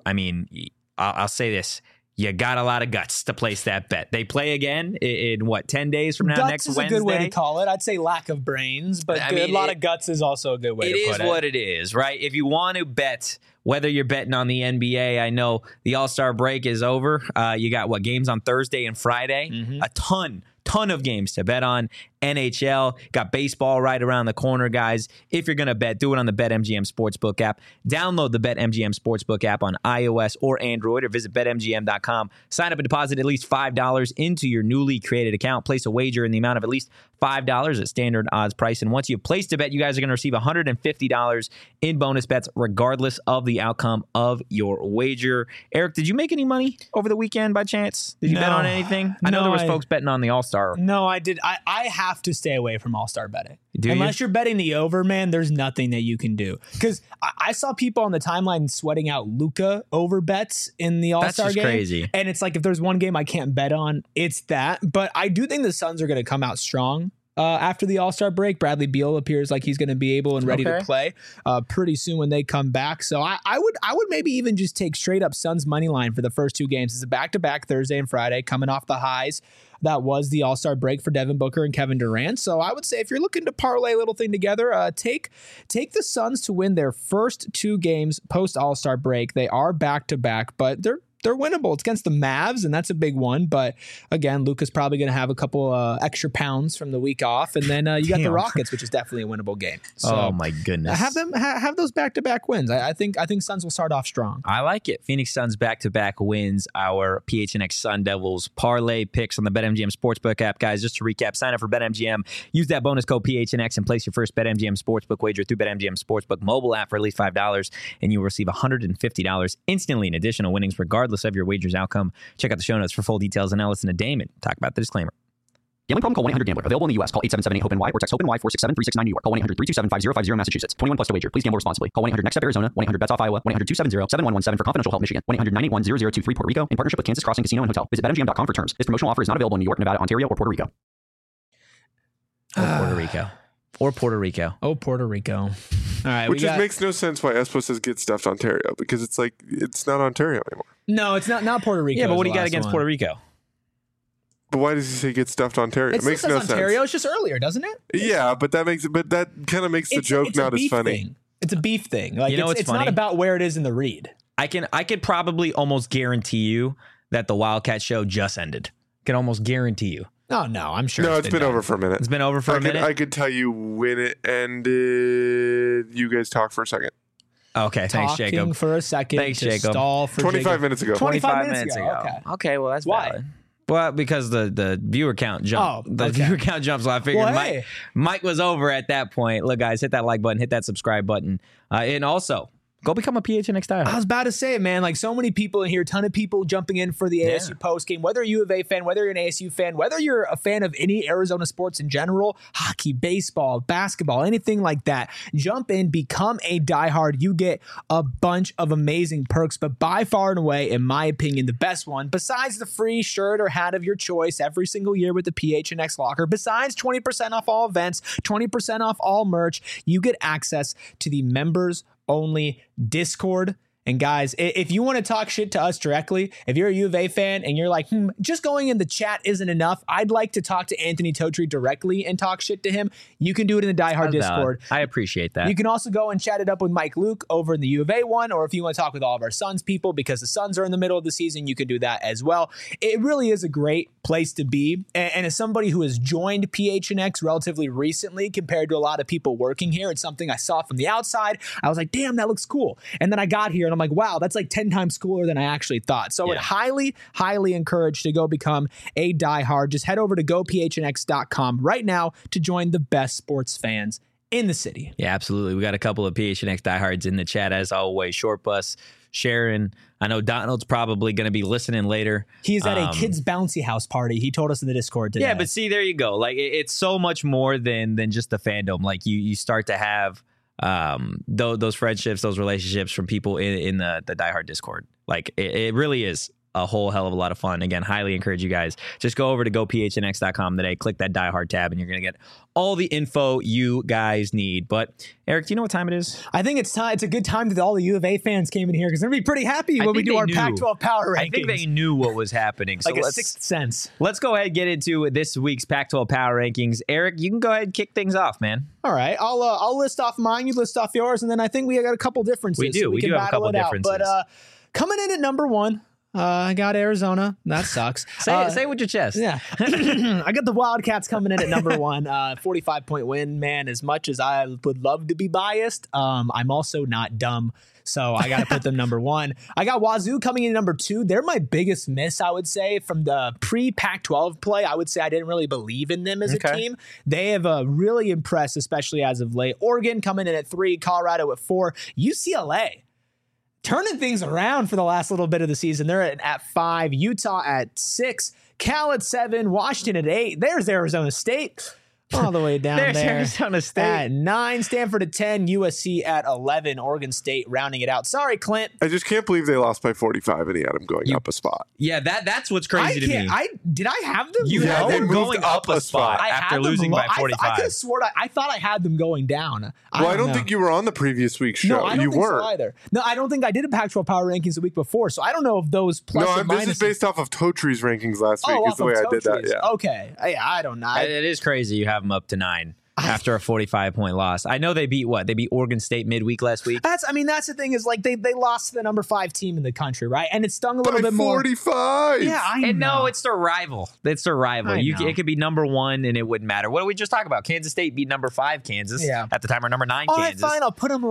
I'll say this. You got a lot of guts to place that bet. They play again in 10 days from now, guts next is Wednesday? a good way to call it. I'd say lack of brains, but a lot of guts is also a good way to put it. It is what it is, right? If you want to bet, whether you're betting on the NBA, I know the All-Star break is over. You got games on Thursday and Friday? Mm-hmm. A ton of games to bet on. NHL, got baseball right around the corner, guys. If you're going to bet, do it on the BetMGM Sportsbook app. Download the BetMGM Sportsbook app on iOS or Android, or visit BetMGM.com. Sign up and deposit at least $5 into your newly created account. Place a wager in the amount of at least $5 at standard odds price. And once you've placed a bet, you guys are going to receive $150 in bonus bets, regardless of the outcome of your wager. Eric, did you make any money over the weekend by chance? Did you bet on anything? I know there was folks betting on the All-Star. No, I did. I have to stay away from All-Star betting. Unless you're betting the over, man, there's nothing that you can do. Because I saw people on the timeline sweating out Luka over bets in the All-Star game. That's just crazy. And it's like, if there's one game I can't bet on, it's that. But I do think the Suns are going to come out strong. After the All-Star break, Bradley Beal appears like he's going to be able and ready to play pretty soon when they come back. So I would maybe even just take straight up Suns money line for the first 2 games. It's a back-to-back Thursday and Friday, coming off the highs that was the All-Star break for Devin Booker and Kevin Durant. So I would say if you're looking to parlay a little thing together, take the Suns to win their first 2 games post All-Star break. They are back-to-back, but they're winnable. It's against the Mavs, and that's a big one. But again, Luka's probably going to have a couple extra pounds from the week off, and then you got the Rockets, which is definitely a winnable game. So oh my goodness! Have those back-to-back wins. I think Suns will start off strong. I like it. Phoenix Suns back-to-back wins. Our PHNX Sun Devils parlay picks on the BetMGM Sportsbook app, guys. Just to recap, sign up for BetMGM. Use that bonus code PHNX and place your first BetMGM Sportsbook wager through BetMGM Sportsbook mobile app for at least $5, and you will receive $150 instantly in additional winnings, regardless of your wager's outcome. Check out the show notes for full details, and now listen to Damon talk about the disclaimer. Gambling problem? Call 1-800-GAMBLER. Available in the U.S. Call 877-8-HOPE-NY or text HOPE-NY 467-369 New York. Call 1-800-327-5050 Massachusetts. 21 plus to wager. Please gamble responsibly. Call 1-800-NEXT-STEP Arizona. 1-800-BETS-OFF Iowa. 1-800-270-7117 for confidential help Michigan. 1-800-981-0023 Puerto Rico in partnership with Kansas Crossing Casino and Hotel. Visit BetMGM.com for terms. This promotional offer is not available in New York, Nevada, Ontario, or Puerto Rico. Or Puerto Rico. Oh, Puerto Rico. All right. Which just makes no sense why Espo says get stuffed Ontario, because it's like, it's not Ontario anymore. No, it's not Puerto Rico. Yeah, but what do you got against Puerto Rico? But why does he say get stuffed Ontario? It makes no sense. Ontario, it's just earlier, doesn't it? Yeah, but that kind of makes the joke not as funny. Thing. It's a beef thing. Like, it's funny? not about where it is in the read. I could probably almost guarantee you that the Wildcat show just ended. Can almost guarantee you. Oh, no, I'm sure. No, it's been over for a minute. It's been over for a minute? I could tell you when it ended. You guys talk for a second. Okay, thanks, Jacob. Talking for a second. Thanks, Jacob. Stall for 25 minutes ago. 25 minutes ago. Okay, well, that's why. Valid. Well, because the viewer count jumped. Viewer count jumped, so I figured Mike was over at that point. Look, guys, hit that like button, hit that subscribe button, and also go become a PHNX diehard. I was about to say it, man. Like, so many people in here, ton of people jumping in for the ASU post game. Whether you're a U of A fan, whether you're an ASU fan, whether you're a fan of any Arizona sports in general, hockey, baseball, basketball, anything like that, jump in, become a diehard. You get a bunch of amazing perks, but by far and away, in my opinion, the best one, besides the free shirt or hat of your choice every single year with the PHNX locker, besides 20% off all events, 20% off all merch, you get access to the members only Discord And guys, if you want to talk shit to us directly, if you're a U of A fan and you're like, just going in the chat isn't enough, I'd like to talk to Anthony Totri directly and talk shit to him. You can do it in the Die Hard Discord. I appreciate that. You can also go and chat it up with Mike Luke over in the U of A one, or if you want to talk with all of our Suns people, because the Suns are in the middle of the season, you can do that as well. It really is a great place to be. And as somebody who has joined PHNX relatively recently compared to a lot of people working here, it's something I saw from the outside. I was like, damn, that looks cool. And then I got here and I'm like, wow, that's like 10 times cooler than I actually thought. So I would highly, highly encourage to go become a diehard. Just head over to gophnx.com right now to join the best sports fans in the city. Yeah, absolutely. We got a couple of PHNX diehards in the chat as always. Short Bus, Sharon. I know Donald's probably going to be listening later. He's at a kids' bouncy house party. He told us in the Discord today. Yeah, but see, there you go. Like it's so much more than just the fandom. Like you start to have those friendships, those relationships from people in the diehard Discord. Like it really is a whole hell of a lot of fun. Again, highly encourage you guys. Just go over to gophnx.com today, click that Die Hard tab, and you're going to get all the info you guys need. But Eric, do you know what time it is? I think it's time. It's a good time that all the U of A fans came in here because they're going to be pretty happy when we do our Pac-12 power rankings. I think they knew what was happening. Like a sixth sense. Let's go ahead and get into this week's Pac-12 power rankings. Eric, you can go ahead and kick things off, man. All right. I'll list off mine. You list off yours. And then I think we got a couple differences. We do. So we do have a couple differences. But coming in at number one, I got Arizona. That sucks. Say it with your chest. Yeah. I got the Wildcats coming in at number one. 45-point win, man. As much as I would love to be biased, I'm also not dumb. So I got to put them number one. I got Wazoo coming in number two. They're my biggest miss, I would say, from the pre-Pac-12 play. I would say I didn't really believe in them as a team. They have really impressed, especially as of late. Oregon coming in at 3, Colorado at 4, UCLA turning things around for the last little bit of the season. They're at 5, Utah at 6, Cal at 7, Washington at 8. There's Arizona State all the way down There's there. Arizona State at 9, Stanford at 10, USC at 11, Oregon State rounding it out. Sorry, Clint. I just can't believe they lost by 45 and he had them going up a spot. Yeah, that's what's crazy to me. Did I have them? You had them going up a spot I after had losing by 45. I could have sworn I thought I had them going down. I don't think you were on the previous week's show. No, I don't you think weren't. so either. No, I don't think I did a Pac-12 power rankings the week before, so I don't know if those plus or minuses. This is based off of Totri's rankings last week. Is the way I did that. Yeah. Okay. Yeah, I don't know. It is crazy. You have them up to 9. After a 45-point loss. I know they beat what? They beat Oregon State midweek last week. That's the thing is like they lost to the number 5 team in the country, right? And it stung a little bit more. 45. Yeah, I know. And no, it's their rival. It's their rival. It could be number 1 and it wouldn't matter. What did we just talk about? Kansas State beat number 5 Kansas at the time, or number 9 All Kansas. All right, fine. I'll put them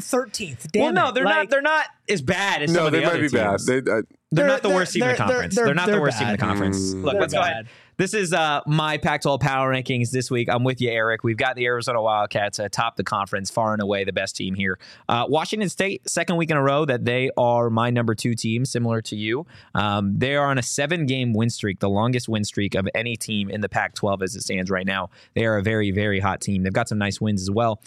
13th. Damn well, no, they're not as bad as some of the other teams. No, they might be bad. They're not the worst team in the conference. They're not the worst team in the conference. Look, let's go ahead. This is my Pac-12 power rankings this week. I'm with you, Eric. We've got the Arizona Wildcats atop the conference, far and away the best team here. Washington State, second week in a row that they are my number 2 team, similar to you. They are on a 7-game win streak, the longest win streak of any team in the Pac-12 as it stands right now. They are a very, very hot team. They've got some nice wins as well.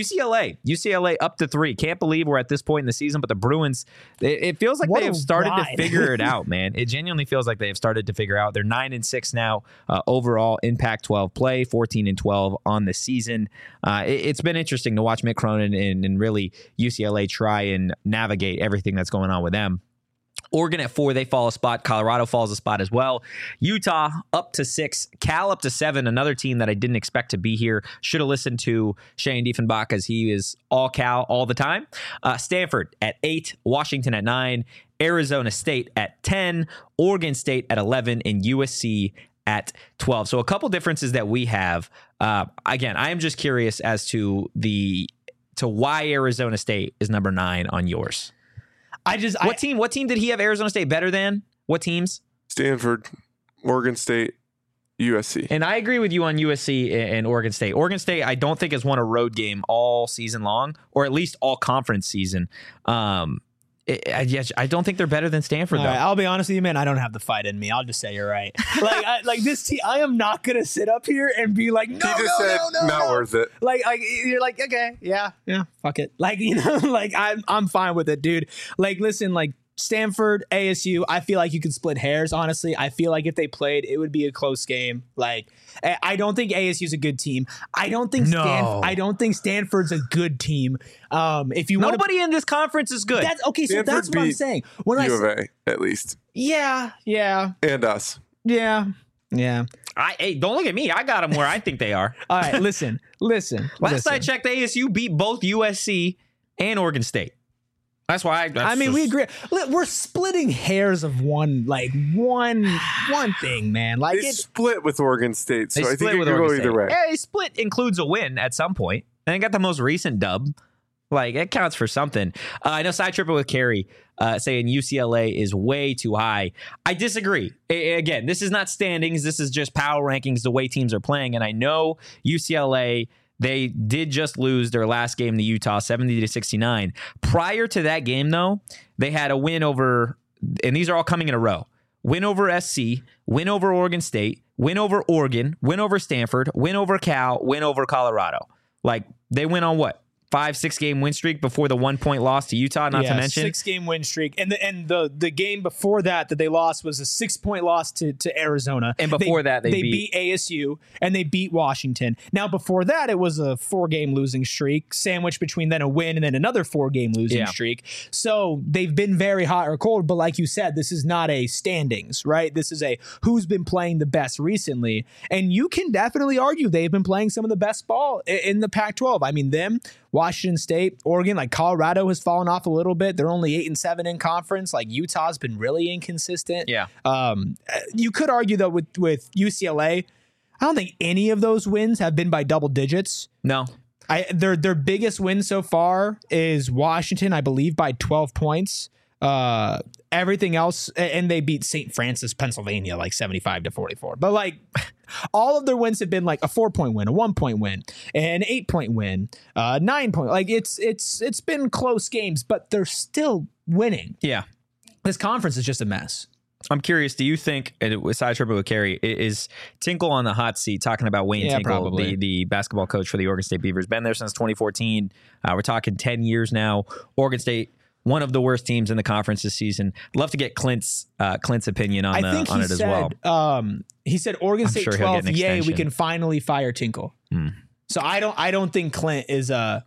UCLA up to 3. Can't believe we're at this point in the season, but the Bruins, it feels like they have started to figure it out, man. It genuinely feels like they have started to figure out. They're 9-6 now. Overall in Pac-12 play, 14-12 on the season. It's been interesting to watch Mick Cronin and really UCLA try and navigate everything that's going on with them. Oregon at 4, they fall a spot. Colorado falls a spot as well. Utah up to 6. Cal up to 7, another team that I didn't expect to be here. Should have listened to Shane Diefenbach as he is all Cal all the time. Stanford at 8. Washington at 9. Arizona State at 10. Oregon State at 11. And USC at 12. So a couple differences that we have. Again, I am just curious as to why Arizona State is number 9 on yours. What team did he have Arizona State better than? What teams? Stanford, Oregon State, USC. And I agree with you on USC and Oregon State. Oregon State, I don't think has won a road game all season long, or at least all conference season. I don't think they're better than Stanford, though. Right, I'll be honest with you, man. I don't have the fight in me. I'll just say you're right. Like this team, I am not gonna sit up here and be like, no, not worth it. Like you're like, okay, yeah, fuck it. Like, like I'm fine with it, dude. Like, listen, like Stanford, ASU, I feel like you could split hairs, honestly. I feel like if they played, it would be a close game. Like, I don't think ASU is a good team. I don't think Stanford's a good team. If you Nobody in this conference is good. That's okay, so Stanford that's what I'm saying. When U of A, at least. Yeah. And us. Yeah. Hey, don't look at me. I got them where I think they are. All right, listen. Last I checked, ASU beat both USC and Oregon State. That's why we agree. We're splitting hairs of one thing, man. Like they split with Oregon State, so I think it could go either way. Yeah, split includes a win at some point, and they got the most recent dub. Like, it counts for something. I know Side Tripping with Carrie saying UCLA is way too high. I disagree. Again, this is not standings. This is just power rankings, the way teams are playing. And I know UCLA, they did just lose their last game to Utah, 70-69. Prior to that game, though, they had a win over, and these are all coming in a row, win over SC, win over Oregon State, win over Oregon, win over Stanford, win over Cal, win over Colorado. Like, they went on what? 5-6 game win streak before the 1 point loss to Utah, not to mention 6 game win streak. And the game before that they lost was a 6 point loss to Arizona. And before that they beat ASU and they beat Washington. Now before that it was a 4 game losing streak, sandwiched between then a win and then another 4 game losing streak. So they've been very hot or cold, but like you said, this is not a standings, right? This is a who's been playing the best recently. And you can definitely argue they've been playing some of the best ball in the Pac-12. I mean, Washington State, Oregon, like Colorado has fallen off a little bit. They're only 8-7 in conference. Like Utah's been really inconsistent. Yeah. You could argue though with UCLA, I don't think any of those wins have been by double digits. No. Their biggest win so far is Washington, I believe, by 12 points. Everything else, and they beat St. Francis, Pennsylvania, like 75-44. But like all of their wins have been like a 4-point win, a 1-point win, an 8-point win, 9-point. Like it's been close games, but they're still winning. Yeah, this conference is just a mess. I'm curious. Do you think, and with Side Tripping with Carrie, is Tinkle on the hot seat talking about Wayne Tinkle, the basketball coach for the Oregon State Beavers? Been there since 2014. We're talking 10 years now. Oregon State, one of the worst teams in the conference this season. I'd love to get Clint's opinion on it as well. He said Oregon State 12th. Yay, we can finally fire Tinkle. So I don't think Clint is a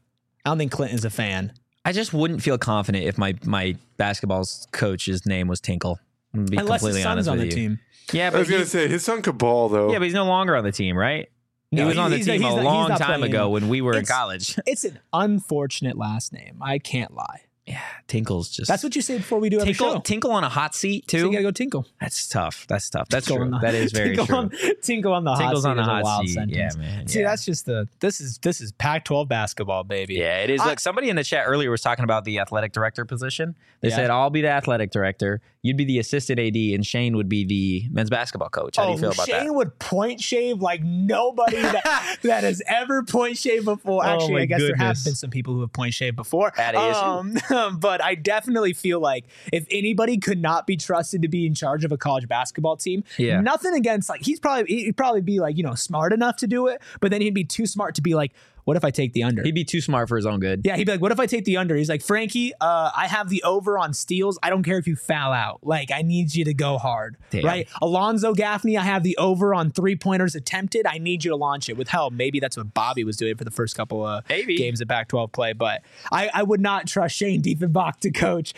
fan. I just wouldn't feel confident if my basketball coach's name was Tinkle. Be unless completely his son's honest on with the you. team. Yeah, but I was going to say his son could ball though. Yeah, but he's no longer on the team, right? He was on the team a long time ago when we were in college. It's an unfortunate last name. I can't lie. Yeah, Tinkle's just... That's what you say before we do every show. Tinkle on a hot seat, too? So you got to go Tinkle. That's tough. That's true. That is very true. Tinkle on the hot seat. Tinkle's on the hot hot seat. Sentence. Yeah, man. See, that's just this is Pac-12 basketball, baby. Yeah, it is. Look, somebody in the chat earlier was talking about the athletic director position. They said, I'll be the athletic director, you'd be the assistant AD, and Shane would be the men's basketball coach. How do you feel about that? Shane would point shave like nobody that has ever point shaved before. Actually, I guess there have been some people who have point shaved before. At ASU. But I definitely feel like if anybody could not be trusted to be in charge of a college basketball team, nothing against, like, he'd probably be like, smart enough to do it, but then he'd be too smart to be like, what if I take the under? He'd be too smart for his own good. Yeah, he'd be like, what if I take the under? He's like, Frankie, I have the over on steals. I don't care if you foul out. Like, I need you to go hard. Damn. Right? Alonzo Gaffney, I have the over on 3-pointers attempted. I need you to launch it. With hell, maybe that's what Bobby was doing for the first couple of games of Pac-12 play. But I would not trust Shane Diefenbach to coach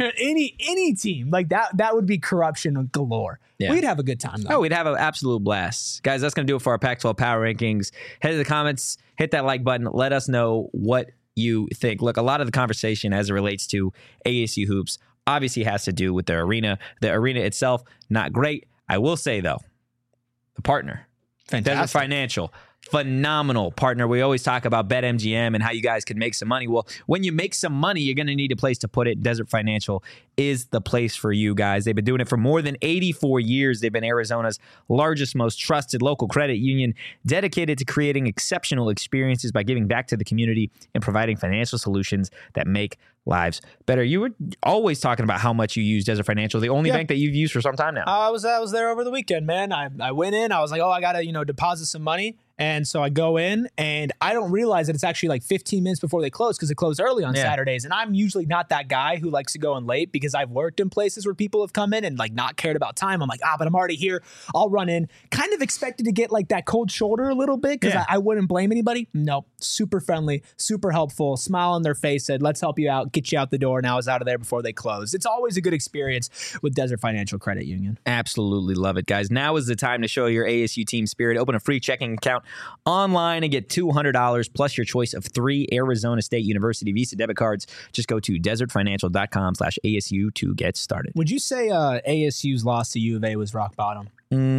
any team. Like, that would be corruption galore. Yeah. We'd have a good time, though. Oh, we'd have an absolute blast. Guys, that's going to do it for our Pac-12 Power Rankings. Head to the comments, hit that like button. Let us know what you think. Look, a lot of the conversation as it relates to ASU hoops obviously has to do with the arena. The arena itself, not great. I will say, though, the partner, fantastic. Desert Financial, phenomenal partner. We always talk about BetMGM and how you guys can make some money. Well, when you make some money, you're going to need a place to put it. Desert Financial is the place for you guys. They've been doing it for more than 84 years. They've been Arizona's largest, most trusted local credit union, dedicated to creating exceptional experiences by giving back to the community and providing financial solutions that make lives better. You were always talking about how much you use Desert Financial, the only bank that you've used for some time now. I was there over the weekend, man. I went in. I was like, I got to deposit some money. And so I go in and I don't realize that it's actually like 15 minutes before they close because it closed early on Saturdays. And I'm usually not that guy who likes to go in late because I've worked in places where people have come in and like not cared about time. I'm like, but I'm already here. I'll run in. Kind of expected to get like that cold shoulder a little bit because I wouldn't blame anybody. No, super friendly, super helpful, smile on their face, said, let's help you out, get you out the door. And I was out of there before they closed. It's always a good experience with Desert Financial Credit Union. Absolutely love it, guys. Now is the time to show your ASU team spirit. Open a free checking account online and get $200 plus your choice of 3 Arizona State University Visa debit cards. Just go to desertfinancial.com/ASU to get started. Would you say ASU's loss to U of A was rock bottom?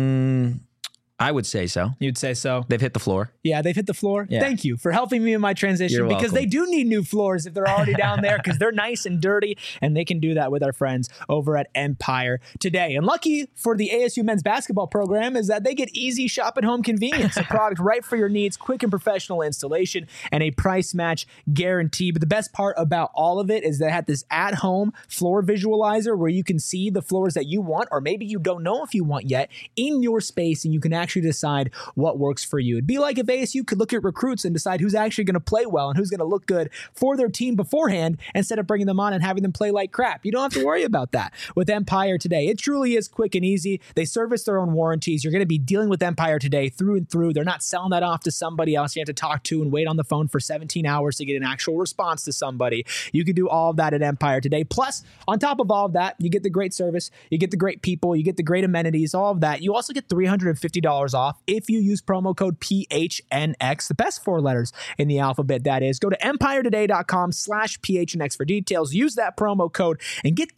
I would say so. You'd say so? They've hit the floor. Yeah, they've hit the floor. Yeah. Thank you for helping me in my transition because they do need new floors if they're already down there because they're nice and dirty, and they can do that with our friends over at Empire today. And lucky for the ASU men's basketball program is that they get easy shop at home convenience, a product right for your needs, quick and professional installation, and a price match guarantee. But the best part about all of it is they had this at-home floor visualizer where you can see the floors that you want, or maybe you don't know if you want yet, in your space, and you can actually decide what works for you. It'd be like if ASU could look at recruits and decide who's actually going to play well and who's going to look good for their team beforehand instead of bringing them on and having them play like crap. You don't have to worry about that with Empire today. It truly is quick and easy. They service their own warranties. You're going to be dealing with Empire today through and through. They're not selling that off to somebody else you have to talk to and wait on the phone for 17 hours to get an actual response to somebody. You can do all of that at Empire today. Plus, on top of all of that, you get the great service, you get the great people, you get the great amenities, all of that. You also get $350 off if you use promo code PHNX, the best 4 letters in the alphabet, that is. Go to empiretoday.com/PHNX for details. Use that promo code and get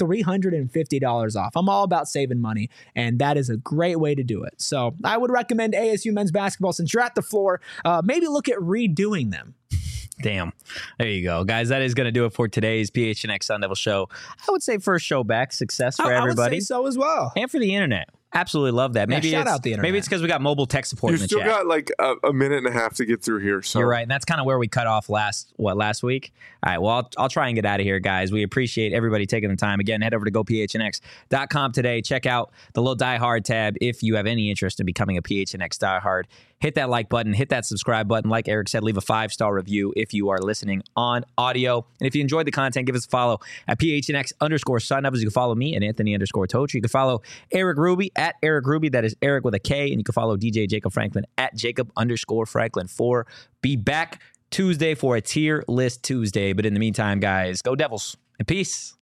$350 off. I'm all about saving money, and that is a great way to do it. So I would recommend ASU men's basketball. Since you're at the floor, maybe look at redoing them. Damn. There you go. Guys, that is going to do it for today's PHNX Sun Devil show. I would say first show back. Success for everybody. I would say so as well. And for the internet. Absolutely love that. Maybe shout out the internet. Maybe it's because we got mobile tech support in the chat. You still got like a minute and a half to get through here. So you're right. And that's kind of where we cut off last week. All right. Well, I'll try and get out of here, guys. We appreciate everybody taking the time. Again, head over to gophnx.com today. Check out the little Die Hard tab if you have any interest in becoming a PHNX Die Hard. Hit that like button, hit that subscribe button. Like Eric said, leave a 5-star review if you are listening on audio. And if you enjoyed the content, give us a follow at PHNX_Sun Devils. You can follow me at Anthony_Totri. You can follow Eric Ruby at Eric Ruby. That is Eric with a K. And you can follow DJ Jacob Franklin at Jacob_Franklin4. Be back Tuesday for a tier list Tuesday. But in the meantime, guys, go Devils and peace.